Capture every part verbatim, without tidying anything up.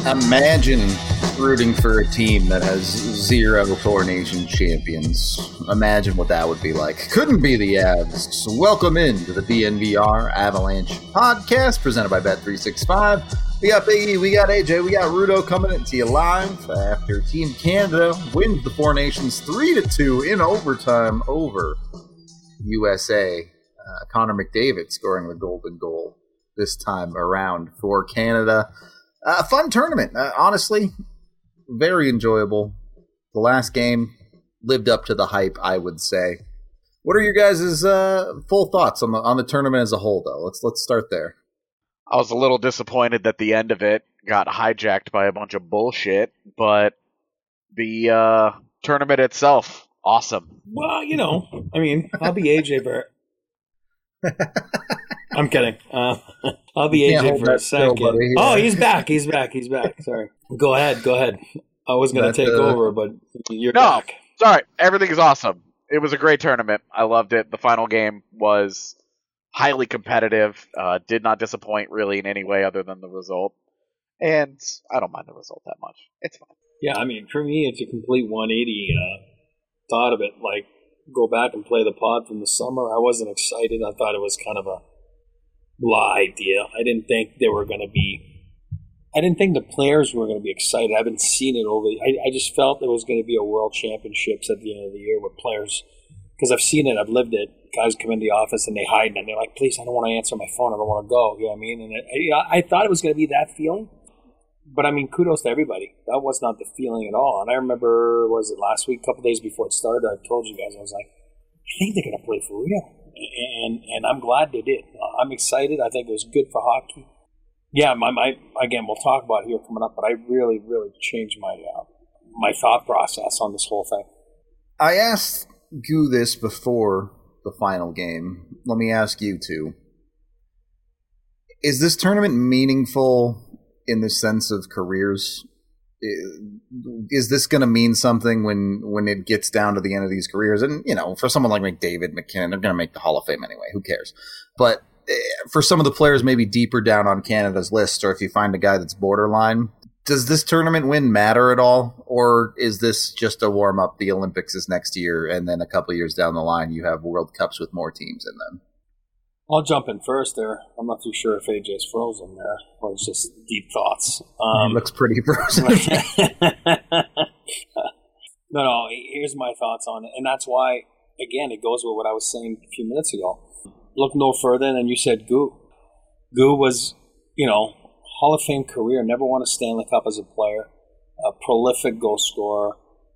Imagine rooting for a team that has zero Four Nations champions. Imagine what that would be like. Couldn't be the Avs. So welcome into the D N V R Avalanche podcast presented by Bet three sixty-five. We got Big E, we got A J, we got Rudo coming into you live after Team Canada wins the Four Nations three to two in overtime over U S A. Uh, Connor McDavid scoring the golden goal this time around for Canada. A uh, fun tournament, uh, honestly, very enjoyable. The last game lived up to the hype, I would say. What are your guys' uh, full thoughts on the on the tournament as a whole, though? Let's let's start there. I was a little disappointed that the end of it got hijacked by a bunch of bullshit, but the uh, tournament itself, awesome. Well, you know, I mean, I'll be A J Burt. I'm kidding. Uh, I'll be A J for a second. Still, oh, he's back. He's back. He's back. Sorry. Go ahead. Go ahead. I was going to take uh, over, but you're no, back. Sorry. Everything is awesome. It was a great tournament. I loved it. The final game was highly competitive. Uh, did not disappoint really in any way other than the result. And I don't mind the result that much. It's fine. Yeah, I mean, for me, it's a complete one eighty uh, thought of it. Like, go back and play the pod from the summer. I wasn't excited. I thought it was kind of a blah idea. I didn't think they were going to be I didn't think the players were going to be excited. I haven't seen it over I, I just felt there was going to be a world championships at the end of the year with players, because I've seen it, I've lived it. Guys come in the office and they hide and they're like, please, I don't want to answer my phone, I don't want to go, you know what I mean? And it, I, I thought it was going to be that feeling, but I mean, kudos to everybody. That was not the feeling at all. And I remember, was it last week, a couple days before it started, I told you guys, I was like, I think they're going to play for real. And and I'm glad they did. I'm excited. I think it was good for hockey. Yeah, my, my again, we'll talk about it here coming up, but I really, really changed my uh, my thought process on this whole thing. I asked Goo this before the final game. Let me ask you two. Is this tournament meaningful in the sense of careers? Is this going to mean something when, when it gets down to the end of these careers? And, you know, for someone like McDavid, McKinnon, they're going to make the Hall of Fame anyway. Who cares? But for some of the players maybe deeper down on Canada's list, or if you find a guy that's borderline, does this tournament win matter at all? Or is this just a warm-up? The Olympics is next year, and then a couple of years down the line, you have World Cups with more teams in them? I'll jump in first there. I'm not too sure if A J's frozen there, or it's just deep thoughts. Um, it looks pretty frozen. no, no, here's my thoughts on it. And that's why, again, it goes with what I was saying a few minutes ago. Look no further than you said Goo. Goo was, you know, Hall of Fame career, never won a Stanley Cup as a player, a prolific goal scorer,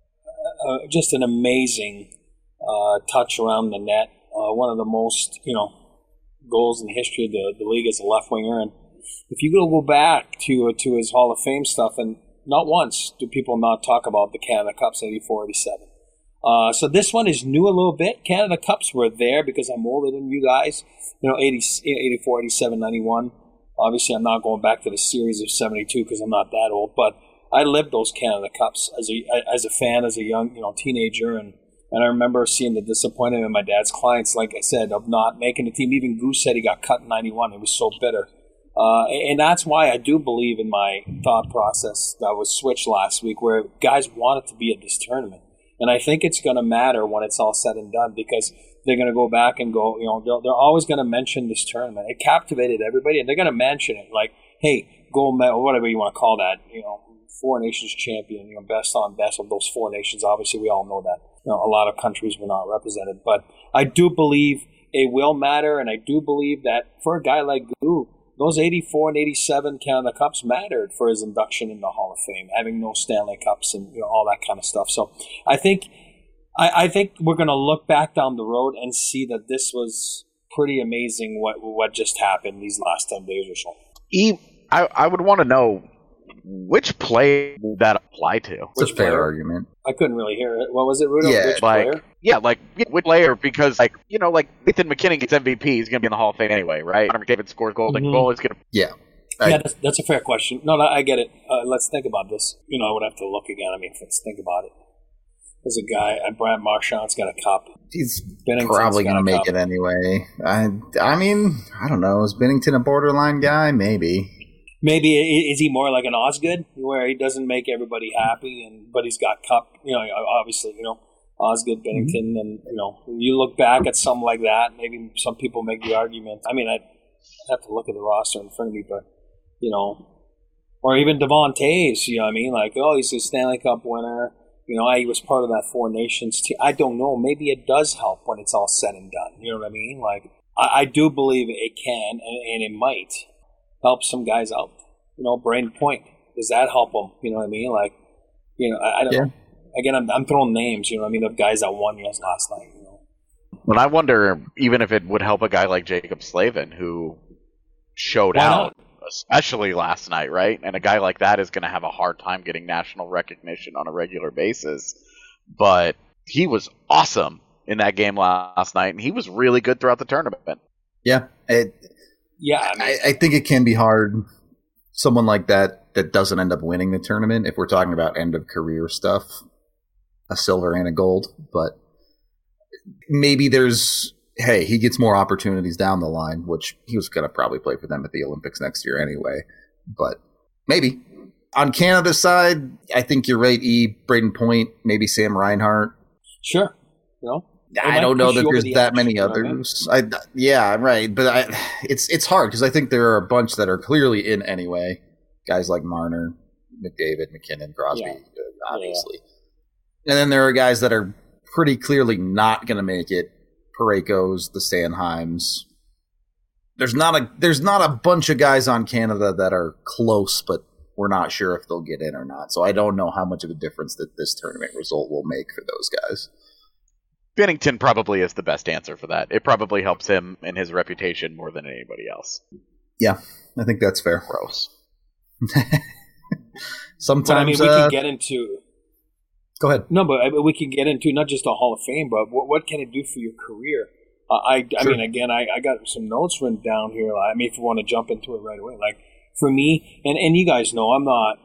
uh, just an amazing uh, touch around the net, uh, one of the most, you know, goals in the history of the, the league as a left winger. And if you go back to uh, to his Hall of Fame stuff, and not once do people not talk about the Canada Cups eighty-four eighty-seven. Uh, so this one is new a little bit. Canada Cups were there because I'm older than you guys. You know, eighty, eighty-four, eighty-seven, ninety-one. Obviously, I'm not going back to the series of seventy-two because I'm not that old. But I lived those Canada Cups as a as a fan, as a young you know teenager, and. And I remember seeing the disappointment in my dad's clients, like I said, of not making the team. Even Goose said he got cut in ninety-one. He was so bitter. Uh, and that's why I do believe in my thought process that was switched last week, where guys wanted to be at this tournament. And I think it's going to matter when it's all said and done, because they're going to go back and go, you know, they're, they're always going to mention this tournament. It captivated everybody, and they're going to mention it. Like, hey, gold medal, or whatever you want to call that, you know, Four Nations champion, you know, best on best of those four nations. Obviously, we all know that. You know, a lot of countries were not represented, but I do believe it will matter, and I do believe that for a guy like Goo, those eighty-four and eighty-seven Canada Cups mattered for his induction in the Hall of Fame, having no Stanley Cups and you know all that kind of stuff. So I think I, I think we're going to look back down the road and see that this was pretty amazing what what just happened these last ten days or so. E, I, I would want to know, which player would that apply to? It's a fair argument. I couldn't really hear it. What was it, Rudo? Yeah, which like, player? Yeah, like, which player? Because, like, you know, like, Nathan McKinnon gets M V P. He's going to be in the Hall of Fame anyway, right? Connor McDavid scores golden mm-hmm. goal. He's going to... Yeah. I, yeah, that's, that's a fair question. No, no, I get it. Uh, let's think about this. You know, I would have to look again. I mean, let's think about it. There's a guy, uh, Brad Marchand's got a cup. He's Binnington's probably going to make cup. it anyway. I, I mean, I don't know. Is Binnington a borderline guy? Maybe. maybe is he more like an Osgood, where he doesn't make everybody happy, and but he's got cup. You know, obviously, you know Osgood, Bennington, mm-hmm. and you know you look back at something like that. Maybe some people make the argument. I mean, I have to look at the roster in front of me, but you know. Or even Devon Toews, you know what I mean? Like, oh, he's a Stanley Cup winner. You know, he was part of that Four Nations team. I don't know. Maybe it does help when it's all said and done. You know what I mean? Like, I, I do believe it can, and, and it might help some guys out. You know, Braden Point, does that help them? You know what I mean? Like, you know, I, I don't yeah. know. Again, I'm, I'm throwing names, you know what I mean, of guys that won yes last night, you know. But I wonder even if it would help a guy like Jacob Slavin, who showed Why out. Not? Especially last night, right? And a guy like that is going to have a hard time getting national recognition on a regular basis. But he was awesome in that game last night, and he was really good throughout the tournament. Yeah. It, yeah. I, mean, I, I think it can be hard. Someone like that that doesn't end up winning the tournament, if we're talking about end-of-career stuff, a silver and a gold. But maybe there's... hey, he gets more opportunities down the line, which he was going to probably play for them at the Olympics next year anyway. But maybe. On Canada's side, I think you're right, E. Braden Point, maybe Sam Reinhart. Sure. You know, I don't know that there's the that edge, many others. I, yeah, right. But I, it's it's hard because I think there are a bunch that are clearly in anyway. Guys like Marner, McDavid, McKinnon, Crosby, yeah. obviously. Yeah. And then there are guys that are pretty clearly not going to make it. Parayko's, the Sanheims. There's not a there's not a bunch of guys on Canada that are close, but we're not sure if they'll get in or not. So I don't know how much of a difference that this tournament result will make for those guys. Binnington probably is the best answer for that. It probably helps him and his reputation more than anybody else. Yeah, I think that's fair. Gross. Sometimes but, I mean, we uh, can get into. Go ahead. No, but we can get into not just a Hall of Fame, but what, what can it do for your career? Uh, I, I sure. mean, again, I, I got some notes written down here. I mean, if you want to jump into it right away, like for me, and, and you guys know, I'm not.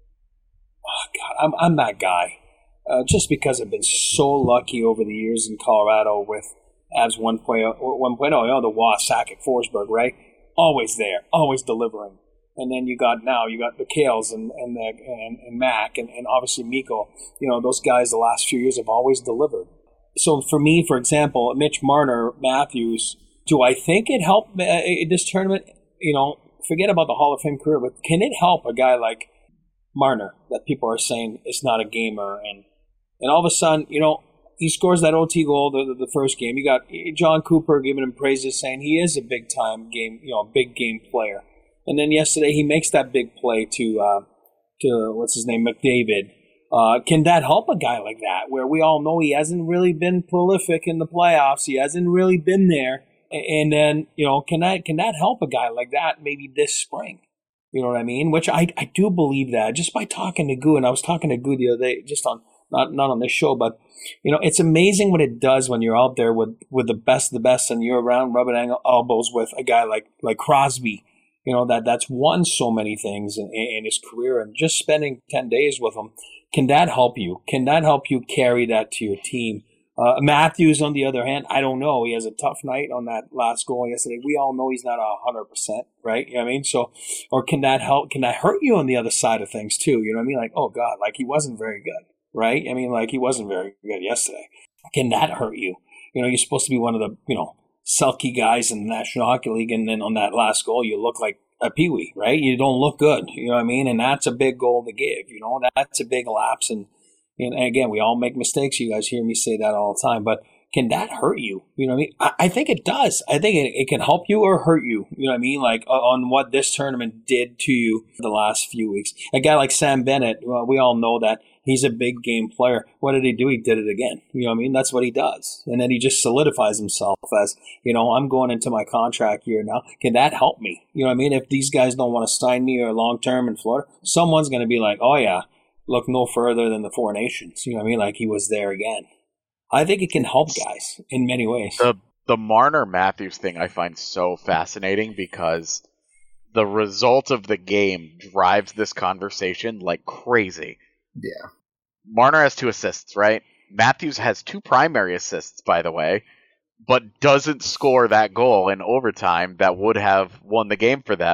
Oh God, I'm I'm that guy. Uh, just because I've been so lucky over the years in Colorado with Avs one point oh, you know, the Waugh, Sakic, Forsberg, right? Always there, always delivering. And then you got now you got the Kales and and the, and, and Mac and, and obviously Mikko. You know, those guys the last few years have always delivered. So for me, for example, Mitch Marner, Matthews, do I think it helped uh, this tournament? You know, forget about the Hall of Fame career, but can it help a guy like Marner that people are saying is not a gamer, and and all of a sudden, you know, he scores that O T goal the, the, the first game. You got John Cooper giving him praises, saying he is a big time game, you know, big game player. And then yesterday he makes that big play to uh, to what's his name, McDavid. Uh, can that help a guy like that, where we all know he hasn't really been prolific in the playoffs? He hasn't really been there. And then, you know, can that can that help a guy like that maybe this spring? You know what I mean? Which I, I do believe that just by talking to Goo, and I was talking to Goo the other day, just on not not on this show, but you know, it's amazing what it does when you're out there with, with the best of the best, and you're around rubbing elbows with a guy like like Crosby. You know, that that's won so many things in, in his career, and just spending ten days with him, can that help you? Can that help you carry that to your team? Uh, Matthews, on the other hand, I don't know. He has a tough night on that last goal yesterday. We all know he's not one hundred percent, right? You know what I mean? So, or can that help? Can that hurt you on the other side of things too? You know what I mean? Like, oh God, like he wasn't very good, right? I mean, like he wasn't very good yesterday. Can that hurt you? You know, you're supposed to be one of the, you know, sulky guys in the National Hockey League, and then on that last goal, you look like a peewee, right? You don't look good, you know what I mean? And that's a big goal to give, you know? That's a big lapse, and, and again, we all make mistakes. You guys hear me say that all the time, but can that hurt you? You know what I mean? I, I think it does. I think it, it can help you or hurt you, you know what I mean? Like, uh, on what this tournament did to you the last few weeks. A guy like Sam Bennett, well, we all know that he's a big game player. What did he do? He did it again. You know what I mean? That's what he does. And then he just solidifies himself as, you know, I'm going into my contract year now. Can that help me? You know what I mean? If these guys don't want to sign me or long-term in Florida, someone's going to be like, oh yeah, look no further than the Four Nations. You know what I mean? Like he was there again. I think it can help guys in many ways. The the Marner Matthews thing I find so fascinating because the result of the game drives this conversation like crazy. Yeah. Marner has two assists, right? Matthews has two primary assists, by the way, but doesn't score that goal in overtime that would have won the game for them.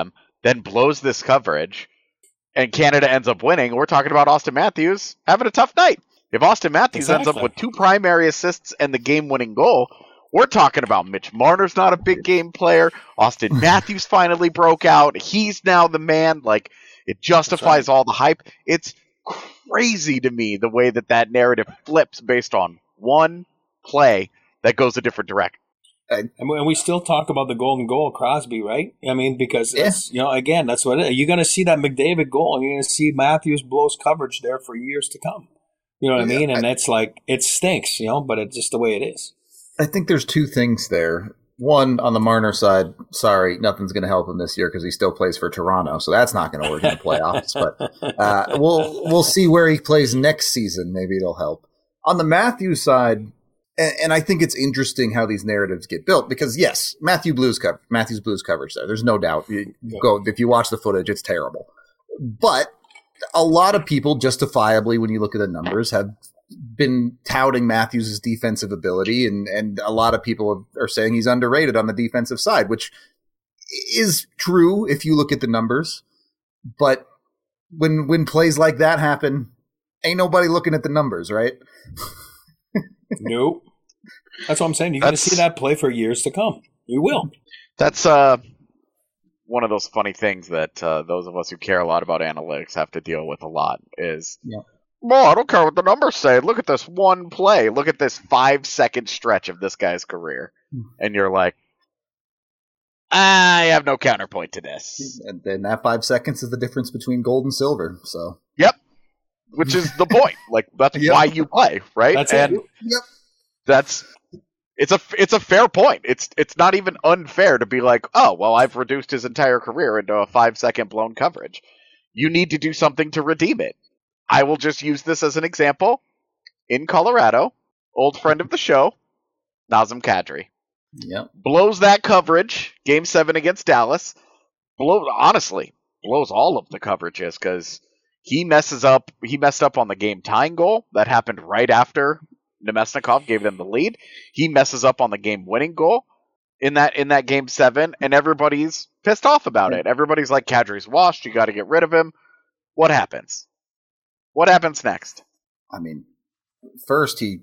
then blows this coverage, and Canada ends up winning, we're talking about Austin Matthews having a tough night. If Austin Matthews Exactly. ends up with two primary assists and the game-winning goal, we're talking about Mitch Marner's not a big game player. Austin Matthews finally broke out. He's now the man. Like, it justifies right. all the hype. It's crazy to me the way that that narrative flips based on one play that goes a different direction. And we still talk about the golden goal, Crosby, right? I mean, because yeah. it's, you know, again, that's what it is. You're going to see that McDavid goal, and you're going to see Matthews blows coverage there for years to come. You know what yeah, I mean? And I, it's like, it stinks, you know, but it's just the way it is. I think there's two things there. One, on the Marner side, sorry, nothing's going to help him this year because he still plays for Toronto, so that's not going to work in the playoffs. But uh, we'll we'll see where he plays next season. Maybe it'll help. On the Matthews side, and, and I think it's interesting how these narratives get built because, yes, Matthew Blues cover, Matthews Blues coverage there. There's no doubt. You go if you watch the footage, it's terrible. But a lot of people, justifiably, when you look at the numbers, have been touting Matthews' defensive ability, and, and a lot of people are saying he's underrated on the defensive side, which is true if you look at the numbers. But when when plays like that happen, ain't nobody looking at the numbers, right? Nope. That's what I'm saying. You're going to see that play for years to come. You will. That's uh, one of those funny things that uh, those of us who care a lot about analytics have to deal with a lot is yeah. – well, I don't care what the numbers say. Look at this one play. Look at this five-second stretch of this guy's career. And you're like, I have no counterpoint to this. And then that five seconds is the difference between gold and silver. So, Yep. Which is the point. Like, that's yep. why you play, right? That's and it. Yep. That's it's a it's a fair point. It's it's not even unfair to be like, oh, well, I've reduced his entire career into a five-second blown coverage. You need to do something to redeem it. I will just use this as an example. In Colorado, old friend of the show, Nazem Kadri. Yep. Blows that coverage, game seven against Dallas. Blow, honestly, blows all of the coverages because he messes up. He messed up on the game tying goal. That happened right after Nemesnikov gave them the lead. He messes up on the game winning goal in that in that game seven, and everybody's pissed off about it. Everybody's like, Kadri's washed. You got to get rid of him. What happens? What happens next? I mean, first he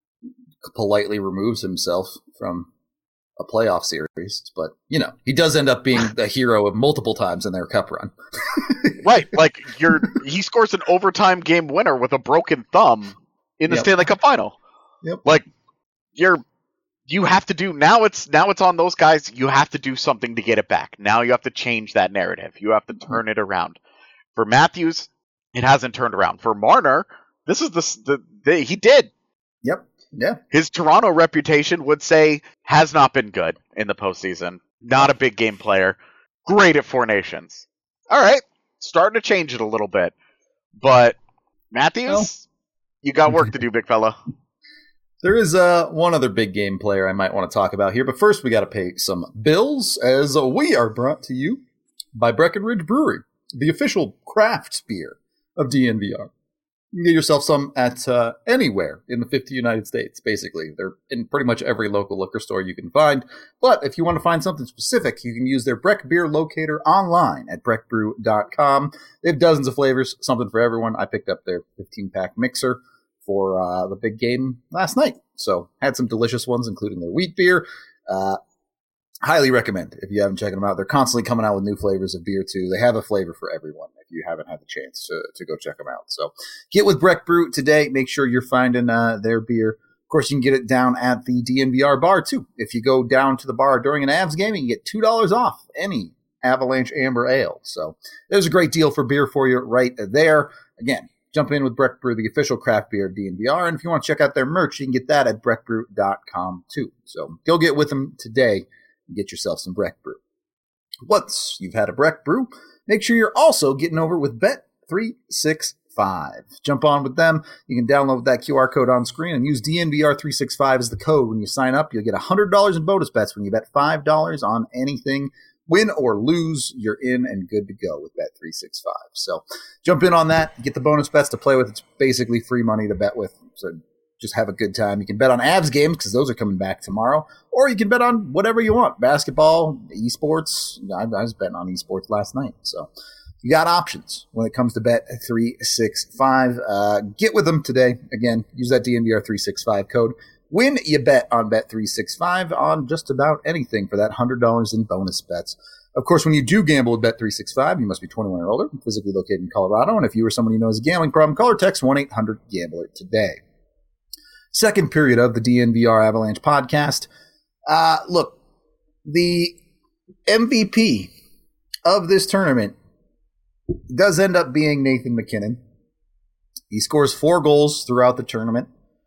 politely removes himself from a playoff series, but, you know, he does end up being the hero of multiple times in their cup run. Right, like, you're he scores an overtime game winner with a broken thumb in the yep. Stanley Cup final. Yep. Like, you're you have to do now it's now it's on those guys. You have to do something to get it back. Now you have to change that narrative. You have to turn it around. For Matthews, it hasn't turned around. For Marner, this is the, the, the he did. Yep. Yeah. His Toronto reputation would say has not been good in the postseason. Not a big game player. Great at Four Nations. All right, starting to change it a little bit. But Matthews, well, you got work to do, big fella. There is uh, one other big game player I might want to talk about here, but first we got to pay some bills, as we are brought to you by Breckenridge Brewery, the official craft beer of D N V R. You can get yourself some at uh, anywhere in the fifty United States, basically. They're in pretty much every local liquor store you can find. But if you want to find something specific, you can use their Breck Beer Locator online at breck brew dot com. They have dozens of flavors, something for everyone. I picked up their fifteen-pack mixer for uh, the big game last night. So had some delicious ones, including their wheat beer. Uh, highly recommend if you haven't checked them out. They're constantly coming out with new flavors of beer, too. They have a flavor for everyone if you haven't had the chance to, to go check them out. So get with Breck Brew today. Make sure you're finding uh, their beer. Of course, you can get it down at the D N V R bar, too. If you go down to the bar during an Avs game, you can get two dollars off any Avalanche Amber Ale. So there's a great deal for beer for you right there. Again, jump in with Breck Brew, the official craft beer of D N V R. And if you want to check out their merch, you can get that at breck brew dot com, too. So go get with them today. Get yourself some Breck Brew. Once you've had a Breck Brew, make sure you're also getting over with Bet three sixty-five. Jump on with them. You can download that Q R code on screen and use D N V R three sixty-five as the code. When you sign up, you'll get one hundred dollars in bonus bets when you bet five dollars on anything. Win or lose, you're in and good to go with Bet three sixty-five. So jump in on that. Get the bonus bets to play with. It's basically free money to bet with. So just have a good time. You can bet on Avs games because those are coming back tomorrow, or you can bet on whatever you want, basketball, esports. I, I was betting on esports last night, so you got options when it comes to Bet three sixty-five. Uh, get with them today. Again, use that D N V R three sixty-five code. When you bet on Bet three sixty-five on just about anything for that one hundred dollars in bonus bets. Of course, when you do gamble with Bet three sixty-five, you must be twenty-one or older, physically located in Colorado. And if you or someone you know has a gambling problem, call or text one eight hundred gambler today. Second period of the D N V R Avalanche podcast. Uh, look, the M V P of this tournament does end up being Nathan MacKinnon. He scores four goals throughout the tournament.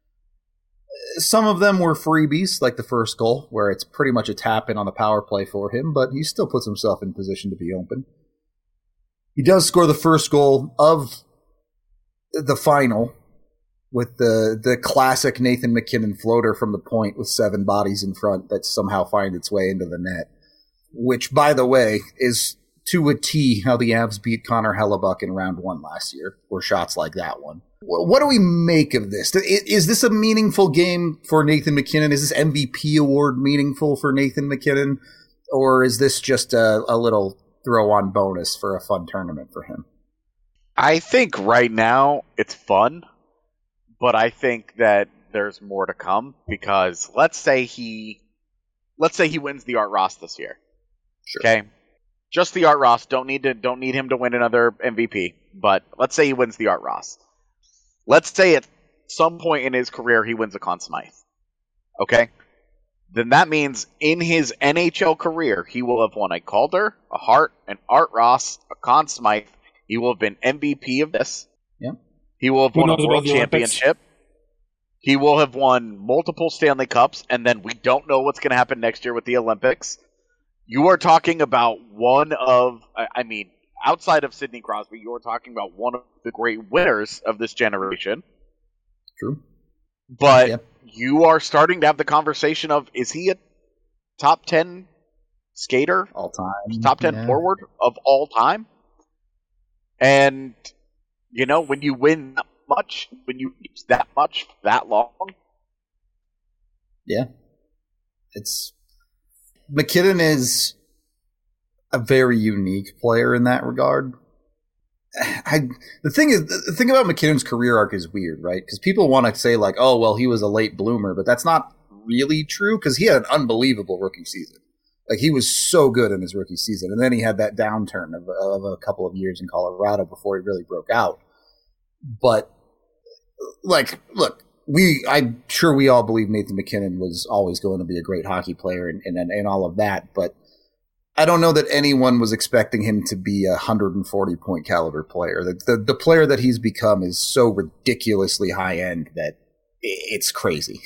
Some of them were freebies, like the first goal, where it's pretty much a tap-in on the power play for him, but he still puts himself in position to be open. He does score the first goal of the final with the, the classic Nathan MacKinnon floater from the point with seven bodies in front that somehow finds its way into the net, which, by the way, is to a T how the Avs beat Connor Hellebuck in round one last year, or shots like that one. What do we make of this? Is this a meaningful game for Nathan MacKinnon? Is this M V P award meaningful for Nathan MacKinnon? Or is this just a, a little throw-on bonus for a fun tournament for him? I think right now it's fun, but I think that there's more to come because let's say he let's say he wins the Art Ross this year. Sure. Okay? Just the Art Ross. Don't need to don't need him to win another M V P, but let's say he wins the Art Ross. Let's say at some point in his career he wins a Conn Smythe. Okay? Then that means in his N H L career, he will have won a Calder, a Hart, an Art Ross, a Conn Smythe. He will have been M V P of this. Yeah. He will have Who won a knows World about the Championship. He will have won multiple Stanley Cups, and then we don't know what's going to happen next year with the Olympics. You are talking about one of, I mean, outside of Sidney Crosby, you are talking about one of the great winners of this generation. True. But yep. You are starting to have the conversation of, is he a top ten skater? All time. Top ten yeah. forward of all time? And, you know, when you win that much, when you use that much, that long. Yeah. It's, MacKinnon is a very unique player in that regard. I, the thing is, the thing about MacKinnon's career arc is weird, right? Because people want to say like, oh, well, he was a late bloomer, but that's not really true because he had an unbelievable rookie season. Like, he was so good in his rookie season, and then he had that downturn of, of a couple of years in Colorado before he really broke out. But, like, look, we I'm sure we all believe Nathan MacKinnon was always going to be a great hockey player and, and, and all of that, but I don't know that anyone was expecting him to be a one hundred forty point caliber player. The, the the player that he's become is so ridiculously high end that it's crazy.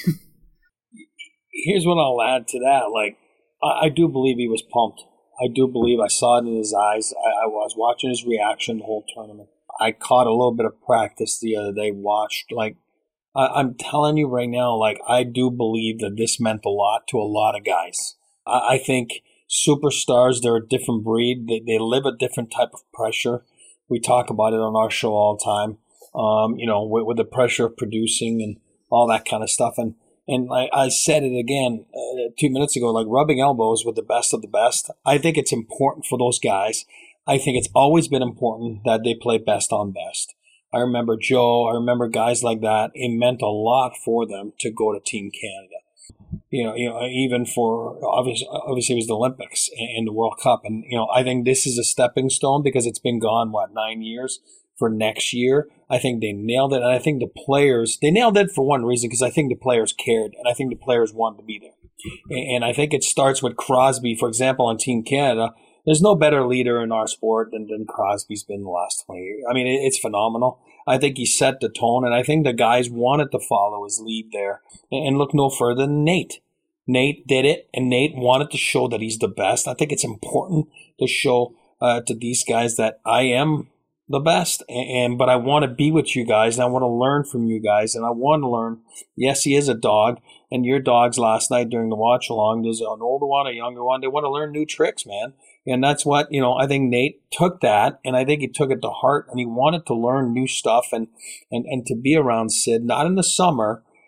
Here's what I'll add to that. Like, I, I do believe he was pumped. I do believe I saw it in his eyes. I, I was watching his reaction the whole tournament. I caught a little bit of practice the other day, watched. Like, I, I'm telling you right now, like, I do believe that this meant a lot to a lot of guys. I, I think superstars, they're a different breed. They they live a different type of pressure. We talk about it on our show all the time. Um, you know, with, with the pressure of producing and all that kind of stuff. And and I, I said it again uh, two minutes ago, like rubbing elbows with the best of the best. I think it's important for those guys. I think it's always been important that they play best on best. I remember Joe. I remember guys like that. It meant a lot for them to go to Team Canada. You know, you know, even for obviously, obviously it was the Olympics and the World Cup, and you know, I think this is a stepping stone because it's been gone what nine years for next year. I think they nailed it, and I think the players they nailed it for one reason because I think the players cared, and I think the players wanted to be there, and I think it starts with Crosby, for example, on Team Canada. There's no better leader in our sport than, than Crosby's been the last twenty years. I mean, it, it's phenomenal. I think he set the tone, and I think the guys wanted to follow his lead there. And, and look no further than Nate. Nate did it, and Nate wanted to show that he's the best. I think it's important to show uh, to these guys that I am the best, and, and but I want to be with you guys, and I want to learn from you guys, and I want to learn. Yes, he is a dog, and your dogs last night during the watch-along, there's an older one, a younger one. They want to learn new tricks, man. And that's what, you know, I think Nate took that, and I think he took it to heart, and he wanted to learn new stuff and, and, and to be around Sid, not in the summer,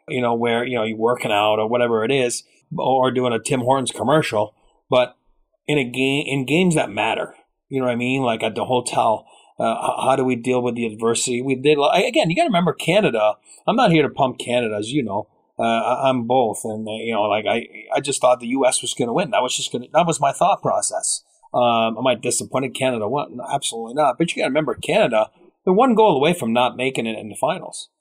you know, where, you know, you're working out or whatever it is, or doing a Tim Hortons commercial. But in a game, in games that matter, you know what I mean? Like at the hotel, uh, how do we deal with the adversity? We did, again, you got to remember Canada. I'm not here to pump Canada, as you know. Uh, I'm both. And, uh, you know, like I, I just thought the U S was going to win. That was just going to, that was my thought process. Um, am I disappointed Canada won? No, absolutely not. But you got to remember Canada, they're one goal away from not making it in the finals.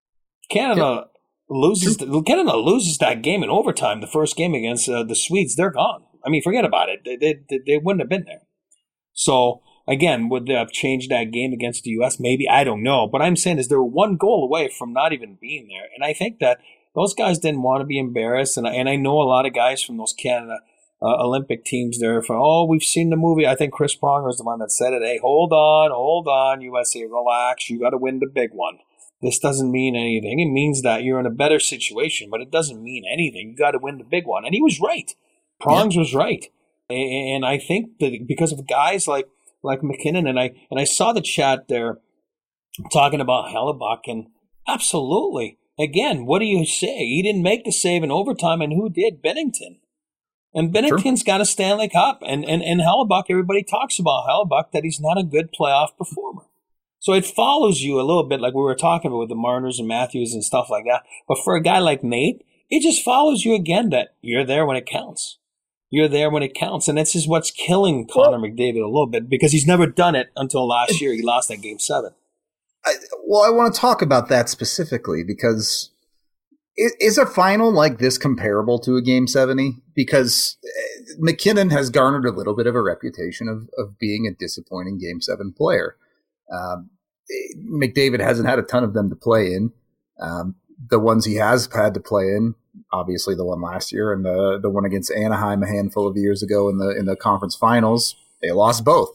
Canada yeah. loses, the, Canada loses that game in overtime, the first game against uh, the Swedes. They're gone. I mean, forget about it. They, they, they wouldn't have been there. So, again, would they have changed that game against the U S? Maybe. I don't know. But I'm saying is they were one goal away from not even being there. And I think that those guys didn't want to be embarrassed. And I, and I know a lot of guys from those Canada uh, Olympic teams there for, oh, we've seen the movie. I think Chris Pronger is the one that said it. Hey, hold on, hold on, U S A, relax. You got to win the big one. This doesn't mean anything. It means that you're in a better situation, but it doesn't mean anything. You got to win the big one. And he was right. Prongs yeah. was right. And I think that because of guys like like MacKinnon, and I and I saw the chat there talking about Hellebuyck, and absolutely. Again, what do you say? He didn't make the save in overtime, and who did? Binnington. And Binnington's sure. got a Stanley Cup. And, and, and Hellebuyck, everybody talks about Hellebuyck, that he's not a good playoff performer. So it follows you a little bit like we were talking about with the Marners and Matthews and stuff like that. But for a guy like Nate, it just follows you again that you're there when it counts. You're there when it counts. And this is what's killing Connor well, McDavid a little bit, because he's never done it until last year. He lost that game seven. I, well, I want to talk about that specifically because is, is a final like this comparable to a game seventy? Because MacKinnon has garnered a little bit of a reputation of, of being a disappointing game seven player. Um, McDavid hasn't had a ton of them to play in. Um, the ones he has had to play in, obviously the one last year and the the one against Anaheim a handful of years ago in the in the conference finals, they lost both.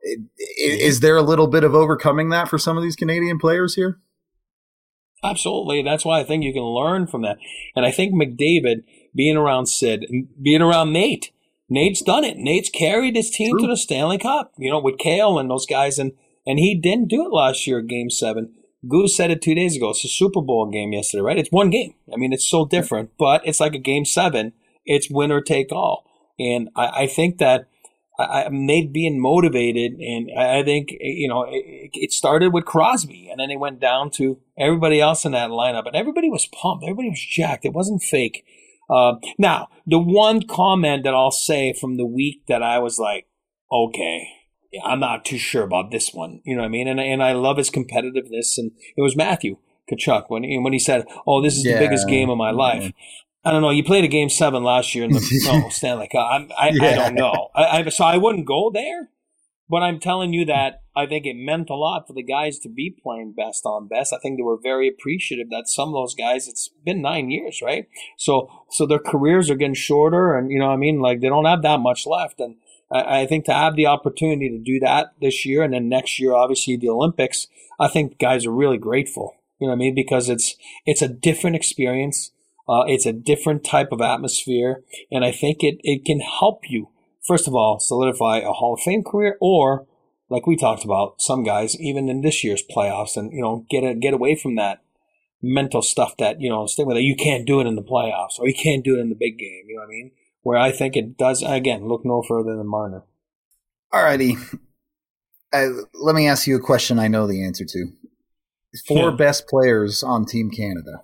Is there a little bit of overcoming that for some of these Canadian players here? Absolutely. That's why I think you can learn from that. And I think McDavid, being around Sid, and being around Nate, Nate's done it. Nate's carried his team True. to the Stanley Cup, you know, with Kale and those guys. And, and he didn't do it last year at game seven. Goose said it two days ago. It's a Super Bowl game yesterday, right? It's one game. I mean, it's so different, but it's like a game seven. It's winner take all. And I, I think that I, Nate being motivated, and I think, you know, it, it started with Crosby, and then it went down to everybody else in that lineup, and everybody was pumped. Everybody was jacked. It wasn't fake. Uh, now, the one comment that I'll say from the week that I was like, okay, I'm not too sure about this one. You know what I mean? And, and I love his competitiveness, and it was Matthew Tkachuk when he, when he said, oh, this is yeah. the biggest game of my life. Yeah. I don't know. You played a game seven last year in the no, Stanley Cup. I, I, yeah. I don't know. I, I, so I wouldn't go there, but I'm telling you that I think it meant a lot for the guys to be playing best on best. I think they were very appreciative that some of those guys, it's been nine years, right? So so their careers are getting shorter, and, you know what I mean? Like, they don't have that much left. And I, I think to have the opportunity to do that this year, and then next year, obviously, the Olympics, I think guys are really grateful. You know what I mean? Because it's it's a different experience. Uh, it's a different type of atmosphere, and I think it, it can help you, first of all, solidify a Hall of Fame career, or, like we talked about, some guys, even in this year's playoffs, and, you know, get a, get away from that mental stuff that, you know, stigma that you can't do it in the playoffs, or you can't do it in the big game, you know what I mean? Where I think it does, again, look no further than Marner. All righty. Uh, let me ask you a question I know the answer to. Four yeah. best players on Team Canada.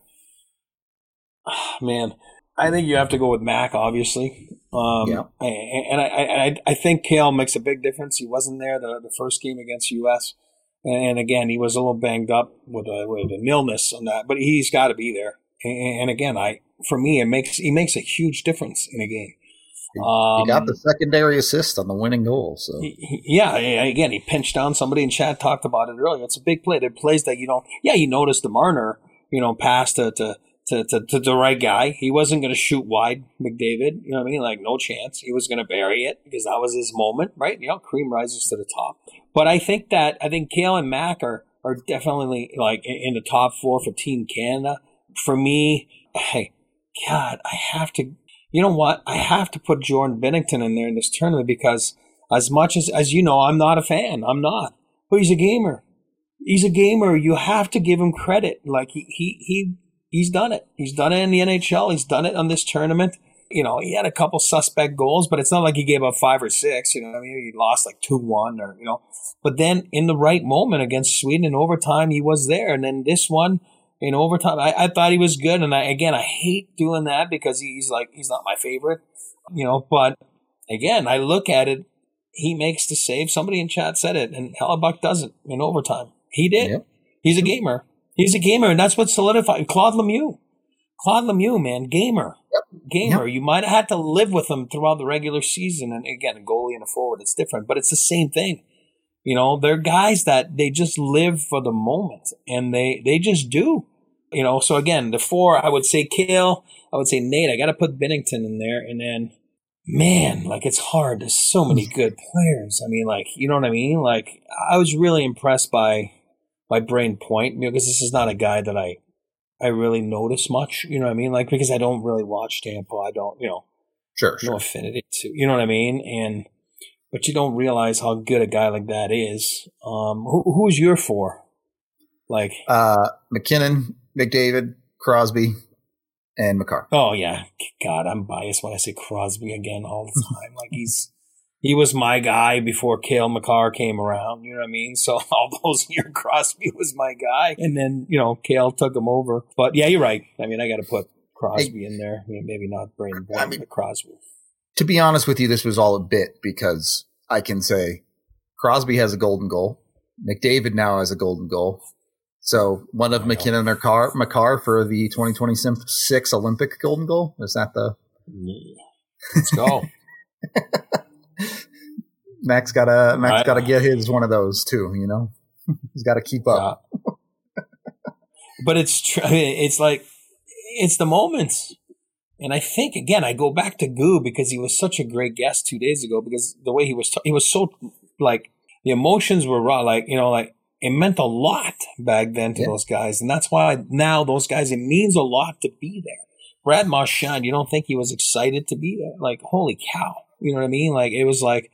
Man, I think you have to go with Mac, obviously. Um, yeah. And I, I, I think Kale makes a big difference. He wasn't there the, the first game against U S And again, he was a little banged up with a, with an illness on that, but he's got to be there. And again, I for me, it makes he makes a huge difference in a game. Um, he got the secondary assist on the winning goal. So he, yeah, again, he pinched down somebody, and Chad talked about it earlier. It's a big play. There are plays that you don't. Yeah, you noticed the Marner, you know, pass to to. To, to, to the right guy. He wasn't going to shoot wide, McDavid. You know what I mean? Like, no chance. He was going to bury it because that was his moment, right? You know, cream rises to the top. But I think that, I think Kale and Mac are, are definitely, like, in the top four for Team Canada. For me, hey, God, I have to, you know what? I have to put Jordan Binnington in there in this tournament because as much as, as you know, I'm not a fan. I'm not. But he's a gamer. He's a gamer. You have to give him credit. Like, he, he, he he's done it. He's done it in the N H L. He's done it on this tournament. You know, he had a couple suspect goals, but it's not like he gave up five or six. You know what I mean? He lost like two one or, you know. But then in the right moment against Sweden in overtime, he was there. And then this one in overtime, I, I thought he was good. And I, again, I hate doing that because he's like, he's not my favorite, you know. But again, I look at it, he makes the save. Somebody in chat said it, and Hellebuck doesn't in overtime. He did. Yep. He's a gamer. He's a gamer, and that's what solidified Claude Lemieux. Claude Lemieux, man, gamer. Yep. Gamer. Yep. You might have had to live with him throughout the regular season. And again, a goalie and a forward, it's different, but it's the same thing. You know, they're guys that they just live for the moment, and they, they just do. You know, so again, the four, I would say Cale, I would say Nate. I got to put Binnington in there, and then, man, like, it's hard. There's so many good players. I mean, like, you know what I mean? Like, I was really impressed by by Braden Point, you know, because this is not a guy that I I really notice much, you know what I mean? Like, because I don't really watch Tampa. I don't, you know, sure, sure. no affinity to, you know what I mean? And, but you don't realize how good a guy like that is. Um, who, who's your four? Like, uh, McKinnon, McDavid, Crosby, and Makar. Oh, yeah. God, I'm biased when I say Crosby again all the time. Like, he's, he was my guy before Cale Makar came around, you know what I mean? So all those years, Crosby was my guy. And then, you know, Cale took him over. But yeah, you're right. I mean, I got to put Crosby hey, in there. I mean, maybe not Braden Point, I mean, but Crosby. To be honest with you, this was all a bit because I can say Crosby has a golden goal. McDavid now has a golden goal. So one of McKinnon or Car- Makar for the twenty twenty-six Olympic golden goal. Is that the? Yeah. Let's go. Max gotta Max gotta get his one of those too. You know, he's got to keep up. Yeah. But it's tr- it's like it's the moments, and I think again I go back to Goo because he was such a great guest two days ago because the way he was t- he was so like the emotions were raw, like you know like. It meant a lot back then to yeah. those guys. And that's why now those guys, it means a lot to be there. Brad Marchand, you don't think he was excited to be there? Like, holy cow. You know what I mean? Like, it was like,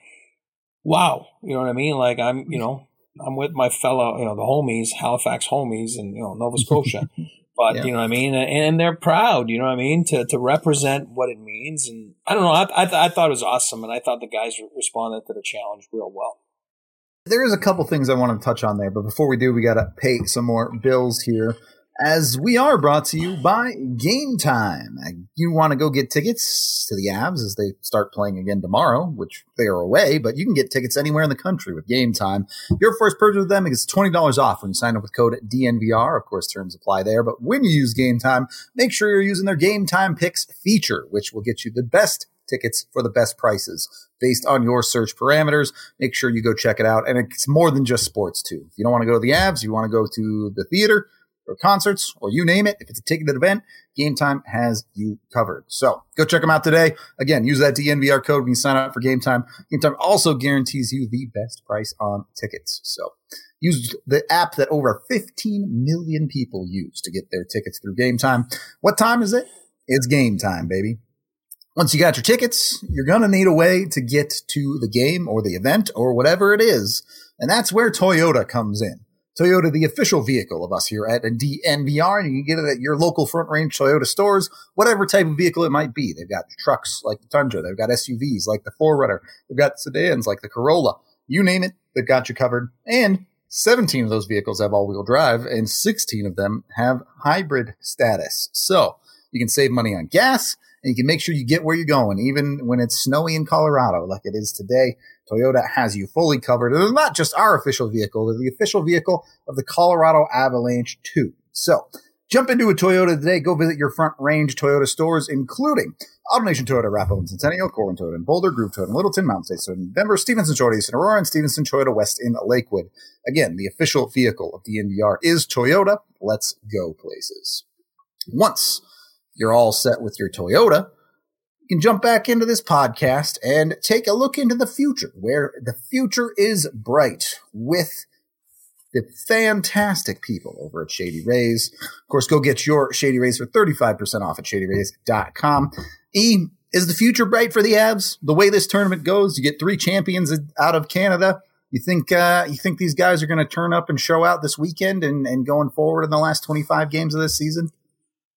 wow. You know what I mean? Like, I'm, you know, I'm with my fellow, you know, the homies, Halifax homies and, you know, Nova Scotia. But, yeah. you know what I mean? And, and they're proud, you know what I mean, to to represent what it means. And I don't know. I, I, th- I thought it was awesome. And I thought the guys responded to the challenge real well. There is a couple things I want to touch on there, but before we do, we got to pay some more bills here, as we are brought to you by Game Time. You want to go get tickets to the Avs as they start playing again tomorrow, which they are away, but you can get tickets anywhere in the country with Game Time. Your first purchase with them is twenty dollars off when you sign up with code D N V R. Of course, terms apply there, but when you use Game Time, make sure you're using their Game Time Picks feature, which will get you the best tickets for the best prices based on your search parameters. Make sure you go check it out. And it's more than just sports, too. If you don't want to go to the Avs, you want to go to the theater or concerts or you name it. If it's a ticketed event, Game Time has you covered. So go check them out today. Again, use that D N V R code when you sign up for Game Time. Game Time also guarantees you the best price on tickets. So use the app that over fifteen million people use to get their tickets through Game Time. What time is it? It's Game Time, baby. Once you got your tickets, you're going to need a way to get to the game or the event or whatever it is. And that's where Toyota comes in. Toyota, the official vehicle of us here at D N V R, and you can get it at your local Front Range Toyota stores, whatever type of vehicle it might be. They've got trucks like the Tundra. They've got S U Vs like the four runner. They've got sedans like the Corolla. You name it, they've got you covered. And seventeen of those vehicles have all-wheel drive, and sixteen of them have hybrid status. So you can save money on gas, and you can make sure you get where you're going, even when it's snowy in Colorado like it is today. Toyota has you fully covered. And it's not just our official vehicle. They're the official vehicle of the Colorado Avalanche, too. So jump into a Toyota today. Go visit your Front Range Toyota stores, including AutoNation Toyota, Rathbone, Centennial, Corwin Toyota, and Boulder, Groove Toyota, and Littleton, Mountain State Toyota, and Denver, Stevenson Toyota, East in Aurora, and Stevenson Toyota West in Lakewood. Again, the official vehicle of D N V R is Toyota. Let's go places. Once you're all set with your Toyota, you can jump back into this podcast and take a look into the future, where the future is bright with the fantastic people over at Shady Rays. Of course, go get your Shady Rays for thirty-five percent off at shady rays dot com. E, is the future bright for the Avs? The way this tournament goes, you get three champions out of Canada. You think uh, you think these guys are going to turn up and show out this weekend and, and going forward in the last twenty-five games of this season?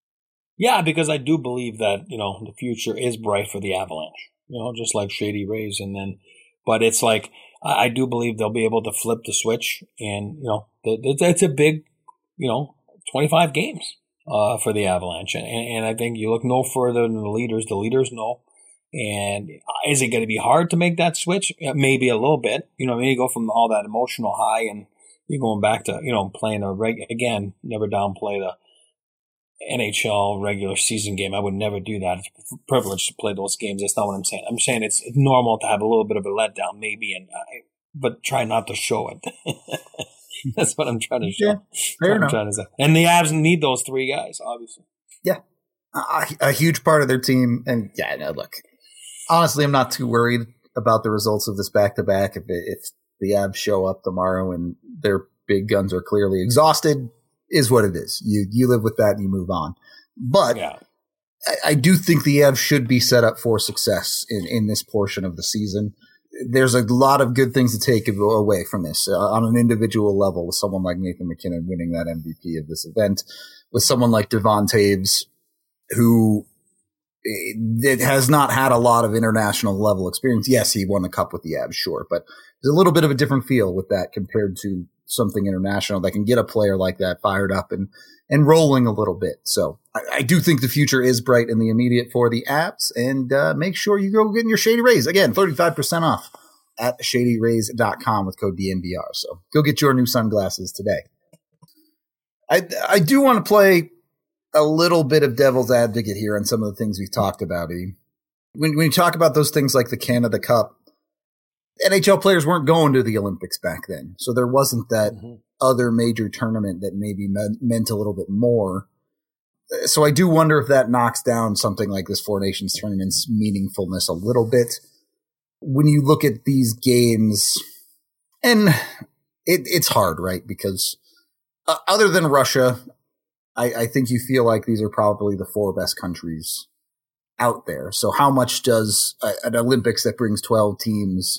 Yeah, because I do believe that, you know, the future is bright for the Avalanche, you know, just like Shady Rays. And then, but it's like, I, I do believe they'll be able to flip the switch. And, you know, it's, it's a big, you know, twenty-five games uh, for the Avalanche. And, and I think you look no further than the leaders. The leaders know. And is it going to be hard to make that switch? Maybe a little bit. You know, I mean, you go from all that emotional high and you're going back to, you know, playing a reg, again, never downplay the N H L regular season game. I would never do that. It's a privilege to play those games. That's not what I'm saying. I'm saying it's normal to have a little bit of a letdown, maybe, and I, but try not to show it. That's what I'm trying to show. Yeah, fair I'm enough. trying to say. And the Avs need those three guys, obviously. Yeah, a, a huge part of their team. And yeah, no, look, honestly, I'm not too worried about the results of this back-to-back. If, it, if the Avs show up tomorrow and their big guns are clearly exhausted, is what it is. You you live with that and you move on. But Yeah. I, I do think the Avs should be set up for success in, in this portion of the season. There's a lot of good things to take away from this uh, on an individual level, with someone like Nathan MacKinnon winning that M V P of this event, with someone like Devon Taves, who it has not had a lot of international level experience. Yes, he won the cup with the Avs, sure, but there's a little bit of a different feel with that compared to something international that can get a player like that fired up and, and rolling a little bit. So I, I do think the future is bright in the immediate for the Avs, and uh, make sure you go get in your Shady Rays. Again, thirty-five percent off at shady rays dot com with code D N V R. So go get your new sunglasses today. I, I do want to play a little bit of devil's advocate here on some of the things we've talked about. E. When, when you talk about those things like the Canada Cup, N H L players weren't going to the Olympics back then. So there wasn't that mm-hmm. other major tournament that maybe me- meant a little bit more. So I do wonder if that knocks down something like this Four Nations tournament's meaningfulness a little bit. When you look at these games, and it, it's hard, right? Because uh, other than Russia, I, I think you feel like these are probably the four best countries out there. So how much does a, an Olympics that brings twelve teams,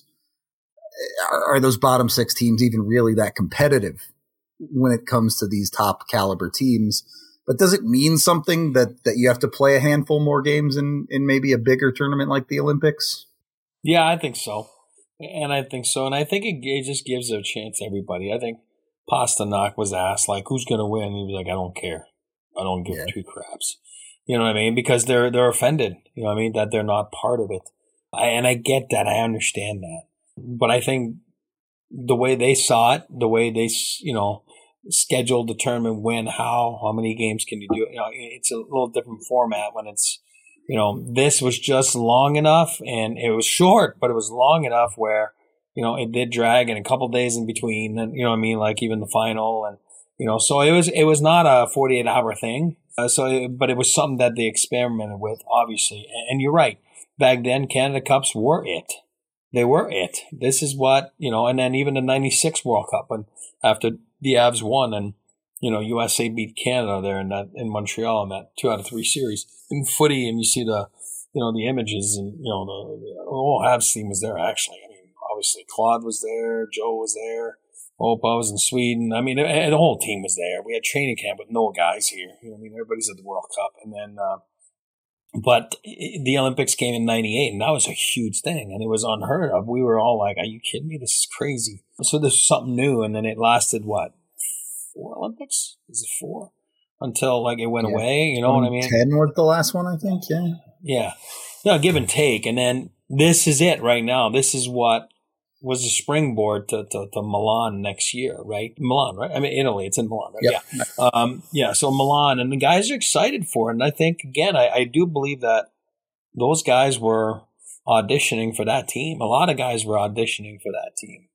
are, are those bottom six teams even really that competitive when it comes to these top caliber teams? But does it mean something that, that you have to play a handful more games in, in maybe a bigger tournament like the Olympics? Yeah, I think so. And I think so. And I think it, it just gives a chance to everybody. I think Pasternak was asked, like, who's going to win? He was like, I don't care. I don't give yeah. two craps. You know what I mean? Because they're they're offended, you know what I mean, that they're not part of it. I, and I get that. I understand that. But I think the way they saw it, the way they, you know, scheduled, determine when, how, how many games can you do? You know, it's a little different format when it's, you know, this was just long enough, and it was short, but it was long enough where, you know, it did drag in a couple days in between, and you know what I mean, like even the final, and you know, so it was it was not a forty-eight hour thing. Uh, so, it, but it was something that they experimented with, obviously. And, and you're right, back then Canada Cups were it. They were it. This is what, you know, and then even the ninety-six World Cup, and after the Avs won, and you know, U S A beat Canada there in that in Montreal in that two out of three series in footy, and you see the, you know, the images, and you know, the, the whole Avs team was there actually. I mean, obviously Claude was there, Joe was there, Opa was in Sweden. I mean, it, the whole team was there. We had training camp with no guys here. You know, I mean, everybody's at the World Cup, and then, uh, but the Olympics came in ninety-eight, and that was a huge thing, and it was unheard of. We were all like, "Are you kidding me? This is crazy." So this was something new, and then it lasted what? Four Olympics? Is it four? Until like it went yeah. away, you know what I mean? Ten was the last one, I think. Yeah, yeah. No, give and take, and then this is it right now. This is what was a springboard to, to, to Milan next year, right? Milan, right? I mean, Italy. It's in Milan, right? Yep. Yeah, um, yeah. So Milan, and the guys are excited for it, and I think again, I, I do believe that those guys were auditioning for that team. A lot of guys were auditioning for that team.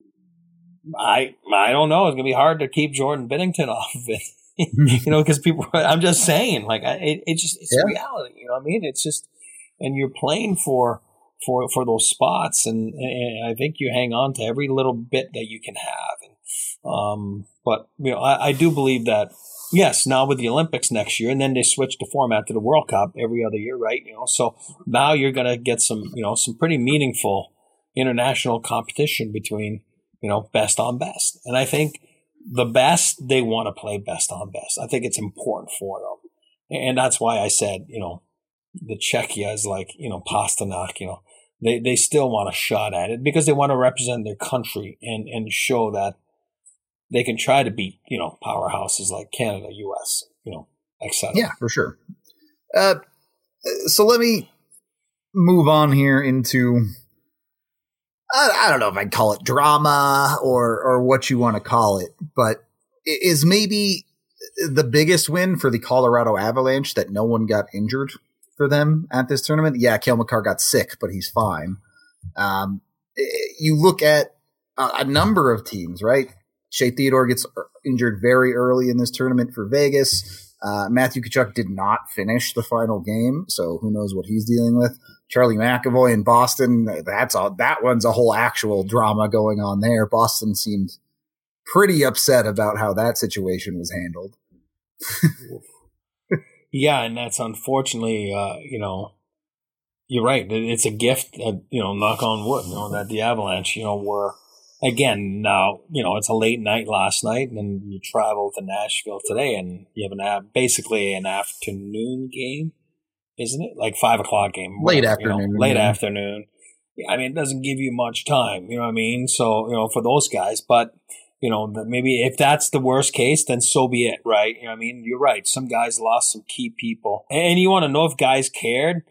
I I don't know. It's gonna be hard to keep Jordan Binnington off of it, you know, because people. I'm just saying, like, I, it, it just it's yeah. reality. You know what I mean? It's just, and you're playing for for for those spots, and, and I think you hang on to every little bit that you can have. And, um, but you know, I, I do believe that yes, now with the Olympics next year, and then they switch the format to the World Cup every other year, right? You know, so now you're gonna get some, you know, some pretty meaningful international competition between, you know, best on best. And I think the best, they want to play best on best. I think it's important for them. And that's why I said, you know, the Czechia is like, you know, Pasternak, you know, they, they still want a shot at it because they want to represent their country and, and show that they can try to beat, you know, powerhouses like Canada, U S, you know, et cetera. Yeah, for sure. Uh, so let me move on here into, I, I don't know if I'd call it drama or, or what you want to call it, but is maybe the biggest win for the Colorado Avalanche that no one got injured for them at this tournament. Yeah, Cale Makar got sick, but he's fine. Um, you look at a, a number of teams, right? Shea Theodore gets injured very early in this tournament for Vegas. Uh, Matthew Tkachuk did not finish the final game, so who knows what he's dealing with. Charlie McAvoy in Boston, that's all, that one's a whole actual drama going on there. Boston seemed pretty upset about how that situation was handled. Yeah, and that's unfortunately, uh, you know, you're right. It's a gift, uh, you know, knock on wood, you know, that the Avalanche, you know, were, again, now, you know, it's a late night last night, and then you travel to Nashville today, and you have an basically an afternoon game, isn't it? Like five o'clock game. Late whatever, afternoon. You know, late yeah. afternoon. I mean, it doesn't give you much time, you know what I mean? So, you know, for those guys, but, you know, maybe if that's the worst case, then so be it, right? You know what I mean? You're right. Some guys lost some key people. And you want to know if guys cared?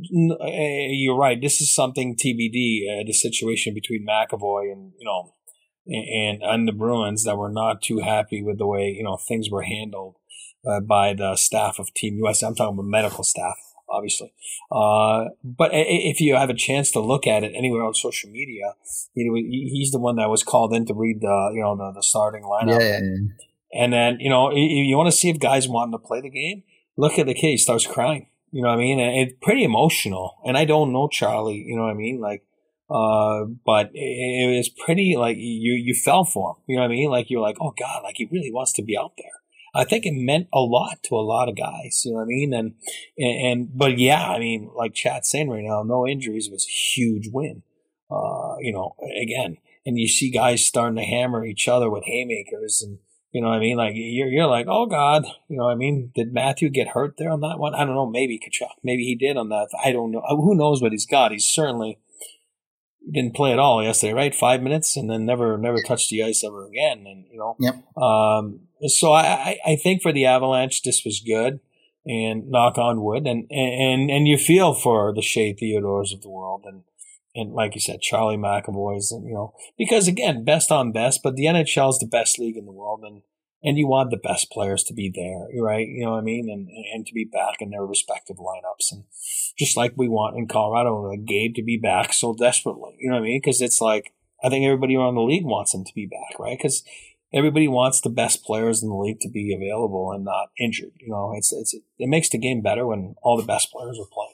You're right. This is something T B D, uh, the situation between McAvoy and, you know, and, and the Bruins that were not too happy with the way, you know, things were handled uh, by the staff of Team U S. I'm talking about medical staff, obviously. Uh, but if you have a chance to look at it anywhere on social media, you know, he's the one that was called in to read the, you know, the, the starting lineup. Yeah, yeah, yeah. And then, you know, you, you want to see if guys wanted to play the game. Look at the kid; he starts crying. You know what I mean? And it's pretty emotional. And I don't know Charlie. You know what I mean? Like, uh, but it, it was pretty like you you fell for him. You know what I mean? Like you're like, oh God, like he really wants to be out there. I think it meant a lot to a lot of guys. You know what I mean? And and, and but yeah, I mean, like Chad's saying right now, no injuries was a huge win. Uh, you know, again, and you see guys starting to hammer each other with haymakers and. You know what I mean? Like, you're you're like, oh, God. You know what I mean? Did Matthew get hurt there on that one? I don't know. Maybe Tkachuk. Maybe he did on that. I don't know. Who knows what he's got? He's certainly didn't play at all yesterday, right? Five minutes and then never never touched the ice ever again. And, you know. Yep. Um, so I, I think for the Avalanche, this was good. And knock on wood. And, and, and you feel for the Shea Theodores of the world. And, And like you said, Charlie McAvoy's, and you know, because again, best on best, but the N H L is the best league in the world, and and you want the best players to be there, right? You know what I mean, and and to be back in their respective lineups, and just like we want in Colorado, like Gabe to be back so desperately, you know what I mean? Because it's like I think everybody around the league wants him to be back, right? Because everybody wants the best players in the league to be available and not injured. You know, it's it's it makes the game better when all the best players are playing.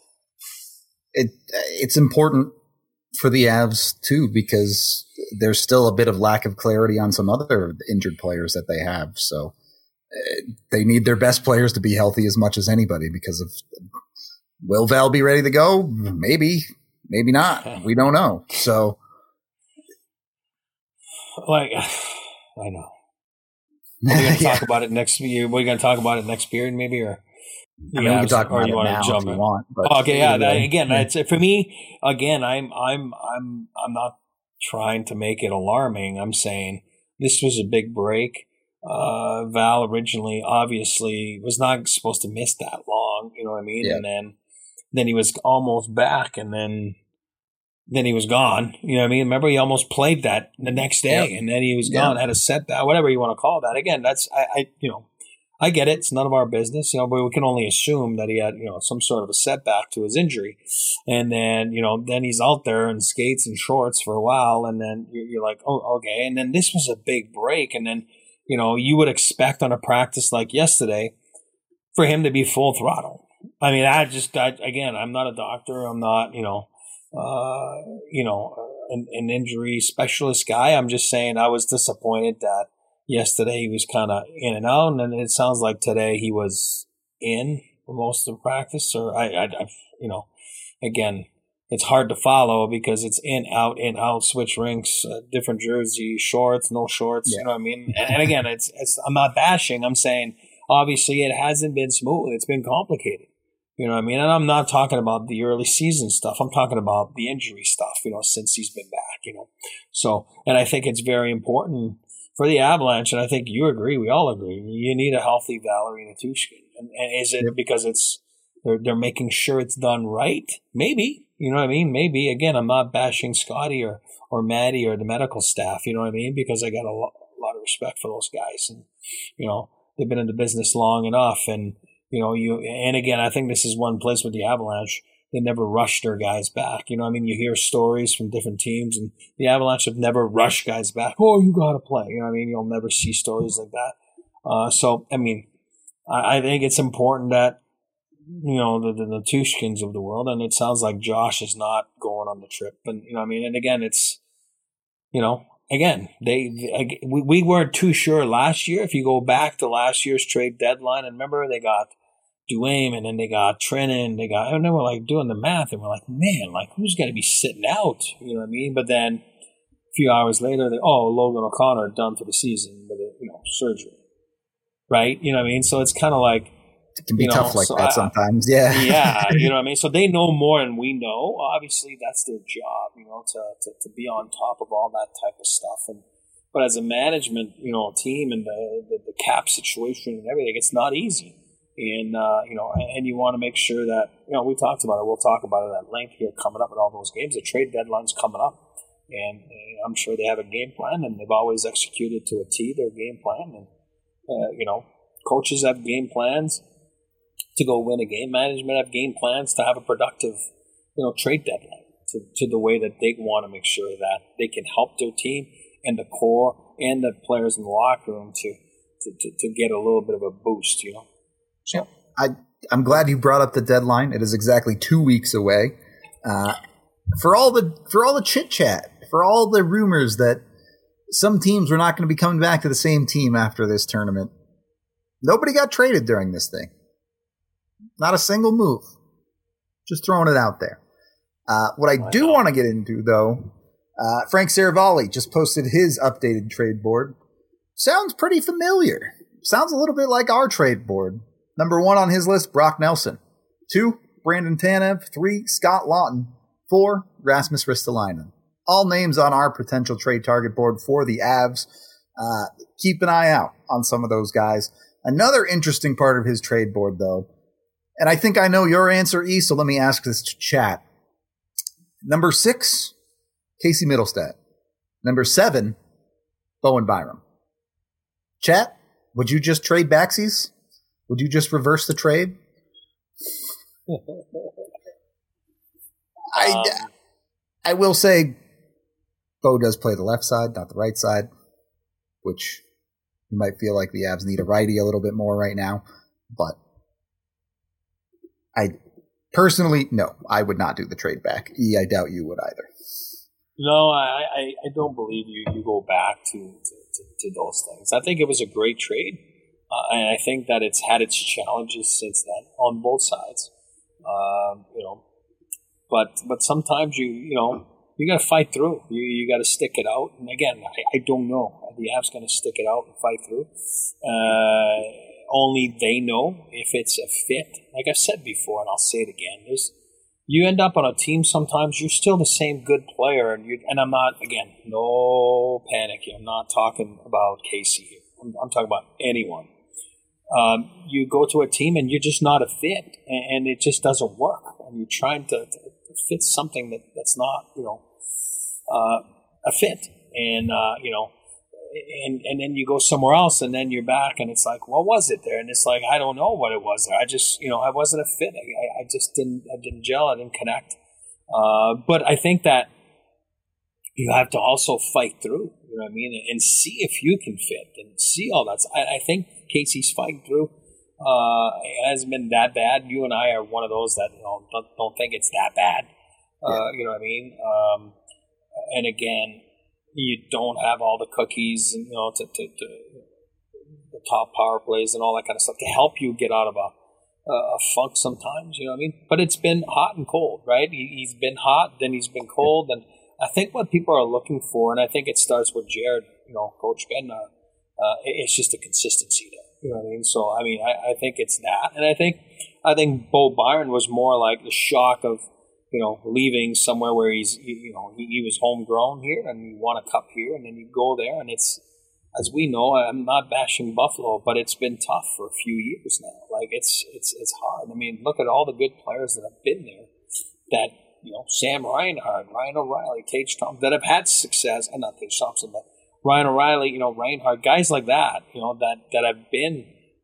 It it's important for the Avs too, because there's still a bit of lack of clarity on some other injured players that they have. So uh, they need their best players to be healthy as much as anybody, because of will Val be ready to go? Maybe, maybe not. We don't know. So like, I know. Are we going to talk about it next year? We're going to talk about it next period maybe, or? I mean, we can talk about it now if you want. But okay, yeah. That, again, yeah. It's, for me, again, I'm, I'm, I'm, I'm not trying to make it alarming. I'm saying this was a big break. Uh, Val originally, obviously, was not supposed to miss that long. You know what I mean? Yeah. And then, then he was almost back, and then, then he was gone. You know what I mean? Remember, he almost played that the next day, Yep. and then he was gone. Yep. Had a setback, whatever you want to call that. Again, that's I, I, you know. I get it. It's none of our business, you know, but we can only assume that he had, you know, some sort of a setback to his injury. And then, you know, then he's out there in skates and shorts for a while. And then you're like, oh, okay. And then this was a big break. And then, you know, you would expect on a practice like yesterday for him to be full throttle. I mean, I just, I, again, I'm not a doctor. I'm not, you know, uh, you know, an, an injury specialist guy. I'm just saying I was disappointed that yesterday he was kind of in and out, and it sounds like today he was in for most of practice. Or I, I, I, you know, again, it's hard to follow because it's in, out, in, out, switch rinks, uh, different jersey, shorts, no shorts. Yeah. You know what I mean? And, and again, it's, it's. I'm not bashing. I'm saying obviously it hasn't been smooth. It's been complicated. You know what I mean? And I'm not talking about the early season stuff. I'm talking about the injury stuff, you know, since he's been back, you know. So, and I think it's very important for the Avalanche, and I think you agree, we all agree, you need a healthy Valeri Nichushkin. And, and is it yep. because it's they're, they're making sure it's done right? Maybe. You know what I mean? Maybe. Again, I'm not bashing Scotty or, or Maddie or the medical staff, you know what I mean? Because I got a lot, a lot of respect for those guys. And, you know, they've been in the business long enough, and You know, you and again, I think this is one place with the Avalanche, they never rush their guys back. You know, I mean, you hear stories from different teams, and the Avalanche have never rushed guys back. Oh, you got to play. You know what I mean? You'll never see stories like that. Uh, so, I mean, I, I think it's important that, you know, the, the, the Tushkins of the world, and it sounds like Josh is not going on the trip. And, you know what I mean? And again, it's, you know, Again, they, they we, we weren't too sure last year. If you go back to last year's trade deadline, and remember they got Duane, and then they got Trennan, they got, and then we're like doing the math, and we're like, man, like who's going to be sitting out? You know what I mean? But then a few hours later, they, oh, Logan O'Connor done for the season with a, you know, surgery, right? You know what I mean? So it's kind of like, it can be you tough know, like so that I, sometimes. Yeah. yeah. You know what I mean? So they know more than we know. Obviously, that's their job, you know, to, to, to be on top of all that type of stuff. And but as a management, you know, team and the, the, the cap situation and everything, it's not easy. And, uh, you know, and you want to make sure that, you know, we talked about it. We'll talk about it at length here coming up at all those games. The trade deadline's coming up. And uh, I'm sure they have a game plan, and they've always executed to a T their game plan. And, uh, you know, coaches have game plans to go win a game. Management have game plans to have a productive, you know, trade deadline to, to the way that they want to make sure that they can help their team and the core and the players in the locker room to, to, to, to get a little bit of a boost, you know. So I, I'm glad you brought up the deadline. It is exactly two weeks away. Uh, for all the for all the chit chat, for all the rumors that some teams were not going to be coming back to the same team after this tournament, nobody got traded during this thing. Not a single move. Just throwing it out there. Uh, what I do want to get into, though, uh, Frank Saravalli just posted his updated trade board. Sounds pretty familiar. Sounds a little bit like our trade board. Number one on his list, Brock Nelson. Two, Brandon Tanev. Three, Scott Lawton. Four, Rasmus Ristolainen. All names on our potential trade target board for the Avs. Uh, keep an eye out on some of those guys. Another interesting part of his trade board, though, and I think I know your answer, E, so let me ask this to chat. Number six, Casey Middlestat. Number seven, Bowen Byram. Chat, would you just trade backsies? Would you just reverse the trade? I, um, I will say Bo does play the left side, not the right side, which you might feel like the Avs need a righty a little bit more right now, but I personally, no, I would not do the trade back. E, I doubt you would either. No, I, I, I don't believe you, you go back to, to, to, to those things. I think it was a great trade, uh, and I think that it's had its challenges since then on both sides. Um, you know, but but sometimes you you know you got to fight through. You you got to stick it out. And again, I, I don't know. The Avs going to stick it out and fight through. Uh, Only they know if it's a fit. Like I've said before, and I'll say it again, there's, you end up on a team sometimes, you're still the same good player. And, you, and I'm not, again, no panic here. I'm not talking about Casey here. I'm, I'm talking about anyone. Um, you go to a team and you're just not a fit, and, and it just doesn't work. And you're trying to, to, to fit something that, that's not, you know, uh, a fit. And, uh, you know, And and then you go somewhere else, and then you're back, and it's like, what was it there? And it's like, I don't know what it was there. I just, you know, I wasn't a fit. I, I just didn't, I didn't gel. I didn't connect. Uh, but I think that you have to also fight through, you know what I mean, and, and see if you can fit and see all that. I, I think Casey's fighting through. Uh, it hasn't been that bad. You and I are one of those that, you know, don't, don't think it's that bad. Uh, yeah. You know what I mean? Um, and again, you don't have all the cookies, and, you know, to, to, to the top power plays and all that kind of stuff to help you get out of a, a funk sometimes, you know what I mean? But it's been hot and cold, right? He, he's been hot, then he's been cold, and I think what people are looking for, and I think it starts with Jared, you know, Coach Ben, uh, uh, it's just a consistency there. You know what I mean? So I mean, I, I think it's that, and I think I think Bo Byron was more like the shock of, you know, leaving somewhere where he's, you know, he, he was homegrown here and he won a cup here, and then you go there, and it's, as we know, I'm not bashing Buffalo, but it's been tough for a few years now. Like it's it's it's hard. I mean, look at all the good players that have been there. That, you know, Sam Reinhart, Ryan O'Reilly, Tage Thompson, that have had success, and not Tage Thompson, but Ryan O'Reilly, you know, Reinhart, guys like that, you know, that, that have been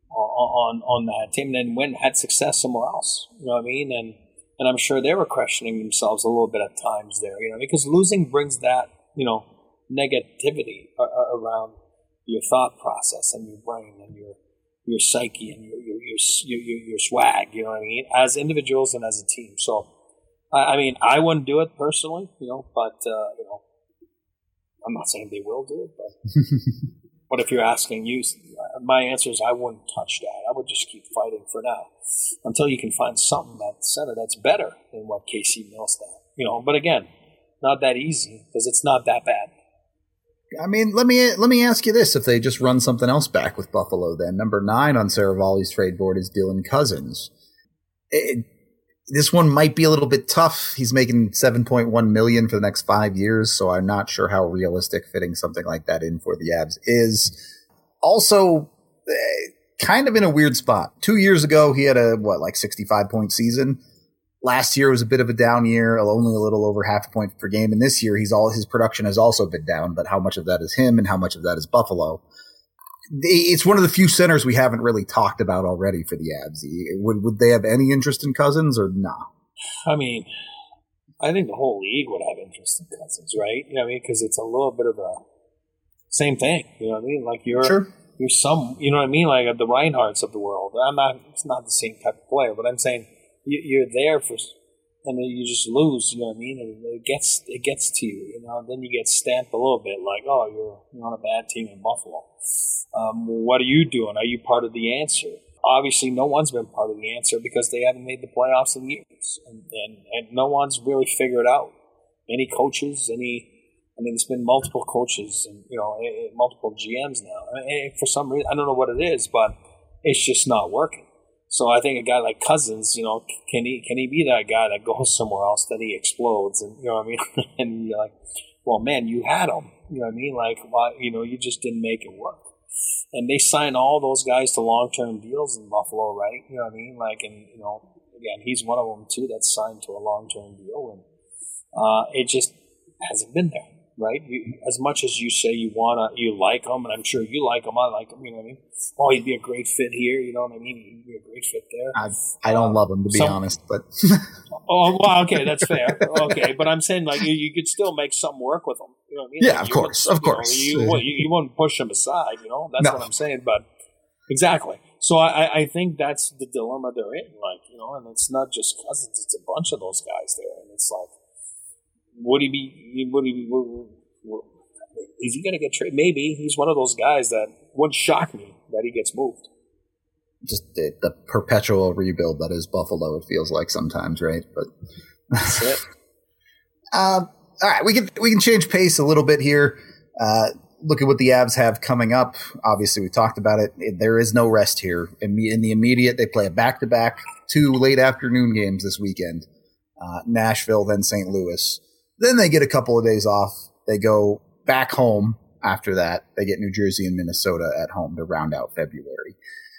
on on that team and then went had success somewhere else. You know what I mean? And and I'm sure they were questioning themselves a little bit at times there, you know, because losing brings that, you know, negativity around your thought process and your brain and your your psyche and your your your, your, your swag, you know what I mean, as individuals and as a team. So, I, I mean, I wouldn't do it personally, you know, but, uh, you know, I'm not saying they will do it, but but if you're asking you, my answer is I wouldn't touch that. I would just keep fighting for now until you can find something at center that's better than what K C Mills did. You know, but again, not that easy because it's not that bad. I mean, let me let me ask you this: if they just run something else back with Buffalo, then number nine on Saravalli's trade board is Dylan Cousins. It, this one might be a little bit tough. He's making seven point one million dollars for the next five years, so I'm not sure how realistic fitting something like that in for the Avs is. Also, kind of in a weird spot. Two years ago, he had a what, like sixty-five point season. Last year was a bit of a down year, only a little over half a point per game. And this year, he's all his production has also been down. But how much of that is him, and how much of that is Buffalo? It's one of the few centers we haven't really talked about already for the Avs. Would would they have any interest in Cousins or nah? I mean, I think the whole league would have interest in Cousins, right? You know what I mean? Because it's a little bit of a same thing. You know what I mean? Like you're sure. you're some. You know what I mean? Like the Reinhardts of the world. I'm not. It's not the same type of player, but I'm saying you're there for, and then you just lose. You know what I mean? And it gets it gets to you. You know, and then you get stamped a little bit, like, oh, you're you're on a bad team in Buffalo. Um, what are you doing? Are you part of the answer? Obviously, no one's been part of the answer because they haven't made the playoffs in years, and and, and no one's really figured out. Any coaches? Any? I mean, it's been multiple coaches and you know multiple G Ms now. And for some reason, I don't know what it is, but it's just not working. So I think a guy like Cousins, you know, can he can he be that guy that goes somewhere else, that he explodes, and you know what I mean? And you're like, well, man, you had him. You know what I mean? Like, why? You know, you just didn't make it work. And they signed all those guys to long-term deals in Buffalo, right? You know what I mean? Like, and you know, again, he's one of them too that's signed to a long-term deal, and uh, it just hasn't been there. Right? You, as much as you say you wanna, you like him, and I'm sure you like him, I like him, you know what I mean? Oh, he'd be a great fit here, you know what I mean? He'd be a great fit there. I, I don't um, love him, to be some, honest, but... oh, well, okay, that's fair. Okay, but I'm saying, like, you, you could still make something work with him, you know what I mean? Yeah, like, of course, of you course. Know, you, you, you wouldn't push him aside, you know? That's no. what I'm saying, but... Exactly. So I, I think that's the dilemma they're in, like, you know, and it's not just Cousins, it's a bunch of those guys there, and it's like, would he be... Would he be... Would, would, Is he going to get traded? Maybe. He's one of those guys that wouldn't shock me that he gets moved. Just the, the perpetual rebuild that is Buffalo, it feels like sometimes, right? But that's it. uh, all right, we can we can change pace a little bit here. Uh, look at what the Avs have coming up. Obviously, we talked about it. There is no rest here. In the, in the immediate, they play a back-to-back, two late afternoon games this weekend. Uh, Nashville, then Saint Louis. Then they get a couple of days off. They go back home after that. They get New Jersey and Minnesota at home to round out February.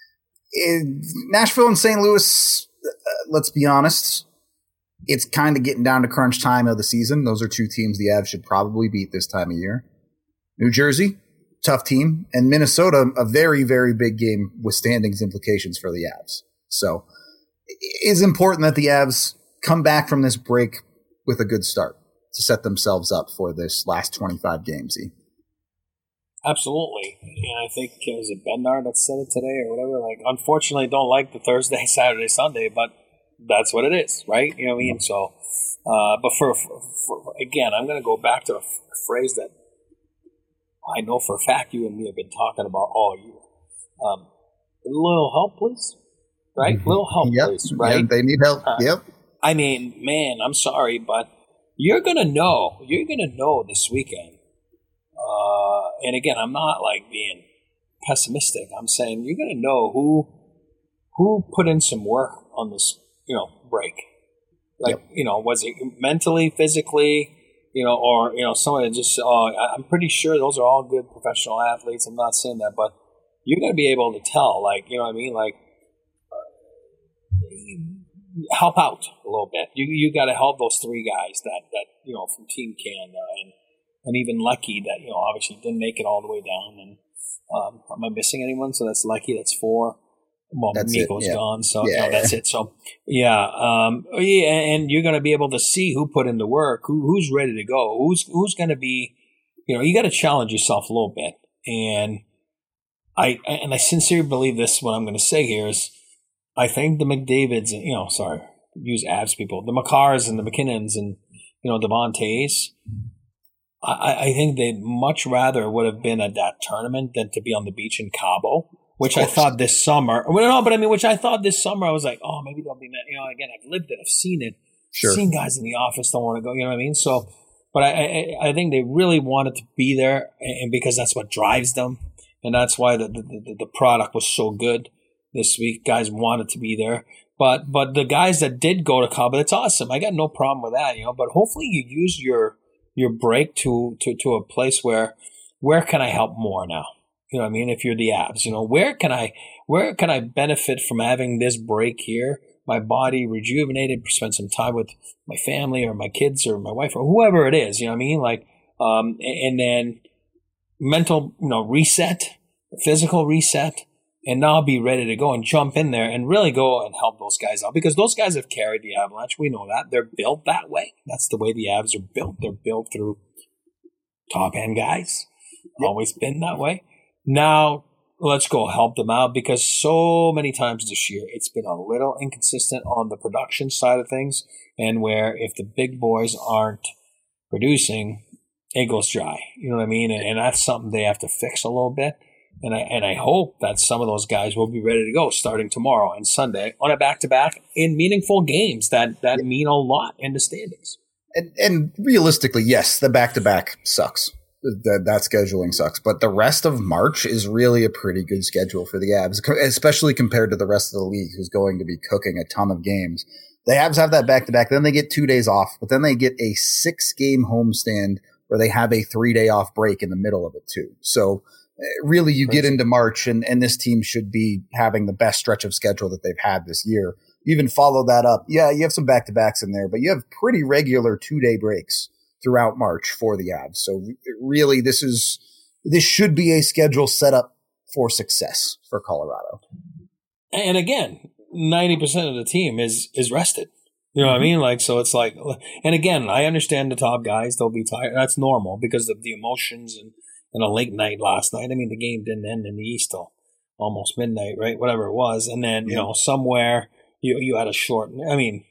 In Nashville and Saint Louis, uh, let's be honest, it's kind of getting down to crunch time of the season. Those are two teams the Avs should probably beat this time of year. New Jersey, tough team, and Minnesota, a very, very big game with standings implications for the Avs. So it is important that the Avs come back from this break with a good start to set themselves up for this last twenty-five games. Absolutely. And I think, uh, was it Bednar that said it today or whatever? Like, unfortunately, don't like the Thursday, Saturday, Sunday, but that's what it is, right? You know what I mean? So, uh, but for, for, for, again, I'm going to go back to a, f- a phrase that I know for a fact you and me have been talking about all year. Um, a little help, please. Right? A little help, yep. please. Right? Yep, they need help. Uh, yep. I mean, man, I'm sorry, but you're going to know. You're going to know this weekend. Uh, and again, I'm not like being pessimistic. I'm saying you're going to know who who put in some work on this, you know, break. Like, yep. you know, was it mentally, physically, you know, or, you know, someone that just, oh, I'm pretty sure those are all good professional athletes. I'm not saying that, but you're going to be able to tell, like, you know what I mean? Like, uh, help out a little bit. You you got to help those three guys that, that you know, from Team Canada and, and even Lucky that, you know, obviously didn't make it all the way down. And um, am I missing anyone? So that's Lucky. That's four. Well, that's Nico's it, yeah. gone, so yeah, no, that's yeah. it. So yeah, um, yeah, and you're going to be able to see who put in the work, who, who's ready to go, who's who's going to be, you know, you got to challenge yourself a little bit. And I and I sincerely believe this. What I'm going to say here is, I think the McDavids, and you know, sorry, use abs people, the McCarrs and the McKinnons and you know Devontae's. I, I think they'd much rather would have been at that tournament than to be on the beach in Cabo. Which I thought this summer, well, no, but I mean, which I thought this summer, I was like, oh, maybe they'll be, you know, again, I've lived it, I've seen it, Sure. seen guys in the office don't want to go, you know what I mean? So, but I, I, I think they really wanted to be there, and because that's what drives them, and that's why the, the, the product was so good this week. Guys wanted to be there, but but the guys that did go to Cabo, it's awesome. I got no problem with that, you know. But hopefully, you use your your break to to to a place where where can I help more now? You know what I mean? If you're the Avs, you know, where can I where can I benefit from having this break here? My body rejuvenated, spend some time with my family or my kids or my wife or whoever it is, you know what I mean? Like, um, and then mental, you know, reset, physical reset, and now be ready to go and jump in there and really go and help those guys out, because those guys have carried the Avalanche. We know that. They're built that way. That's the way the Avs are built. They're built through top end guys. Yep. Always been that way. Now, let's go help them out, because so many times this year it's been a little inconsistent on the production side of things, and where if the big boys aren't producing, it goes dry. You know what I mean? And, and that's something they have to fix a little bit. And I and I hope that some of those guys will be ready to go starting tomorrow and Sunday on a back-to-back in meaningful games that, that yeah. mean a lot in the standings. And, and realistically, yes, the back-to-back sucks. That that scheduling sucks, but the rest of March is really a pretty good schedule for the Avs, especially compared to the rest of the league, who's going to be cooking a ton of games. The Avs have that back-to-back, then they get two days off, but then they get a six-game homestand where they have a three-day off break in the middle of it too. So really, you Crazy. Get into March, and, and this team should be having the best stretch of schedule that they've had this year. You even follow that up. Yeah, you have some back-to-backs in there, but you have pretty regular two-day breaks throughout March for the Avs. So really, this is this should be a schedule set up for success for Colorado. And again, ninety percent of the team is is rested. You know what mm-hmm. I mean? Like, so it's like, and again, I understand the top guys, they'll be tired. That's normal because of the emotions and, and a late night last night. I mean, the game didn't end in the East till almost midnight, right? Whatever it was. And then, you know, somewhere you you had a short, I mean,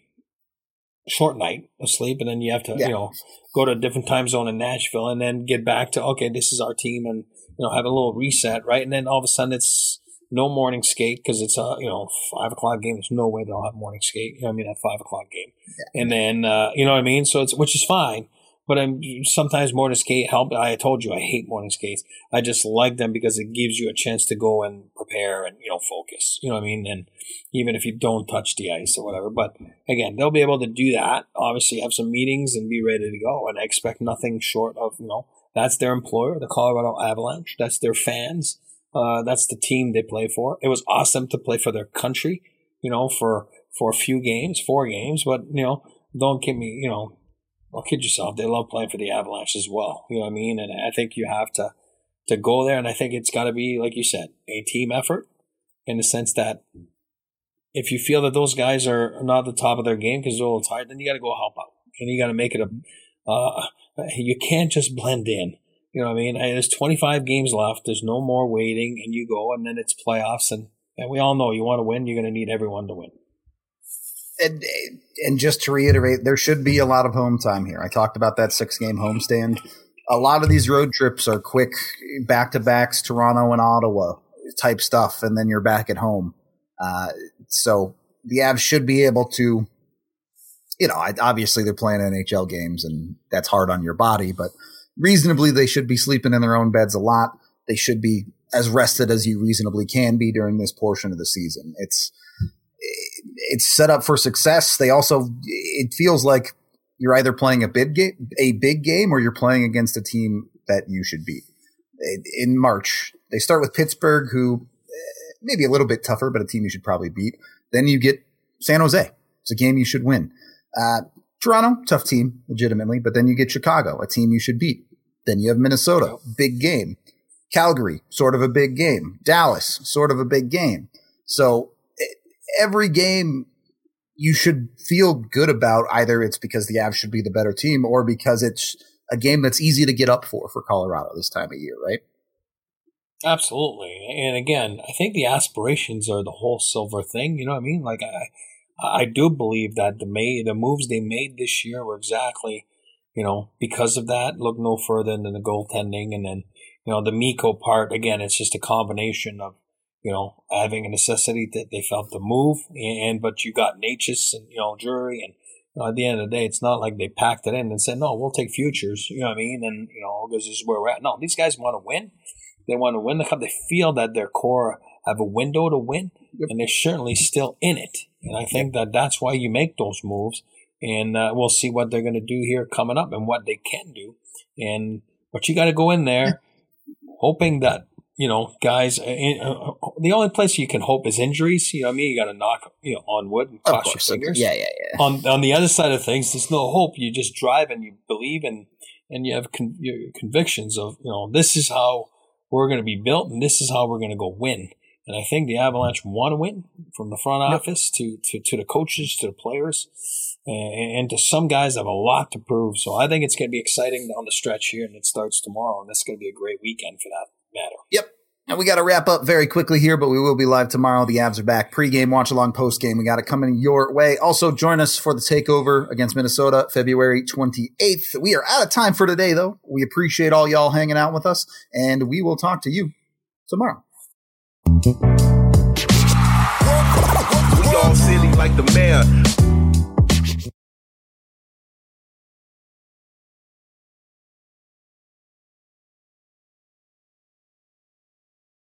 short night of sleep, and then you have to, yeah. you know, go to a different time zone in Nashville and then get back to, okay, this is our team, and, you know, have a little reset, right? And then all of a sudden it's no morning skate because it's a, you know, five o'clock game. There's no way they'll have morning skate. You know what I mean? At five o'clock game. Yeah. And then, uh, you know what I mean? So it's, which is fine. But I'm, sometimes morning skate help. I told you I hate morning skates. I just like them because it gives you a chance to go and prepare and, you know, focus. You know what I mean? And even if you don't touch the ice or whatever. But again, they'll be able to do that. Obviously, have some meetings and be ready to go. And I expect nothing short of, you know, that's their employer, the Colorado Avalanche. That's their fans. Uh, that's the team they play for. It was awesome to play for their country, you know, for for a few games, four games. But, you know, don't kid me, you know. Don't kid yourself. They love playing for the Avalanche as well. You know what I mean? And I think you have to to go there. And I think it's got to be, like you said, a team effort in the sense that if you feel that those guys are not at the top of their game because they're a little tired, then you got to go help out. And you got to make it a uh, – you can't just blend in. You know what I mean? There's twenty-five games left. There's no more waiting. And you go, and then it's playoffs. And, and we all know you want to win, you're going to need everyone to win. And, and just to reiterate, there should be a lot of home time here. I talked about that six-game homestand. A lot of these road trips are quick back-to-backs, Toronto and Ottawa type stuff, and then you're back at home. Uh, so the Avs should be able to, you know, obviously they're playing N H L games, and that's hard on your body, but reasonably they should be sleeping in their own beds a lot. They should be as rested as you reasonably can be during this portion of the season. It's it's set up for success. They also, it feels like you're either playing a big game, a big game, or you're playing against a team that you should beat. In March, they start with Pittsburgh, who maybe a little bit tougher, but a team you should probably beat. Then you get San Jose. It's a game you should win. Uh, Toronto, tough team, legitimately, but then you get Chicago, a team you should beat. Then you have Minnesota, big game. Calgary, sort of a big game. Dallas, sort of a big game. So every game you should feel good about. Either it's because the Avs should be the better team or because it's a game that's easy to get up for for Colorado this time of year, right? Absolutely. And again, I think the aspirations are the whole silver thing. You know what I mean? Like, I I do believe that the may, the moves they made this year were exactly, you know, because of that. Look no further than the goaltending. And then, you know, the Mikko part, again, it's just a combination of, you know, having a necessity that they felt to move. And, but you got Natchez and, you know, Drury. And you know, at the end of the day, it's not like they packed it in and said, no, we'll take futures. You know what I mean? And, you know, because this is where we're at. No, these guys want to win. They want to win the cup. They feel that their core have a window to win, yep. And they're certainly still in it. And I think that that's why you make those moves. And uh, we'll see what they're going to do here coming up and what they can do. And but you got to go in there hoping that, you know, guys, uh, uh, the only place you can hope is injuries. You know what I mean? You got to knock, you know, on wood and cross your fingers. Yeah, yeah, yeah. On on the other side of things, there's no hope. You just drive and you believe and and you have con- your convictions of, you know, this is how we're going to be built, and this is how we're going to go win. And I think the Avalanche want to win, from the front office to, to, to the coaches, to the players, and, and to some guys have a lot to prove. So I think it's going to be exciting down the stretch here, and it starts tomorrow, and that's going to be a great weekend for that matter. Yep. And we got to wrap up very quickly here, but we will be live tomorrow. The Avs are back. Pre-game, watch-along, post-game. We got it coming your way. Also, join us for the takeover against Minnesota, February twenty-eighth. We are out of time for today, though. We appreciate all y'all hanging out with us, and we will talk to you tomorrow. We all silly like the mayor.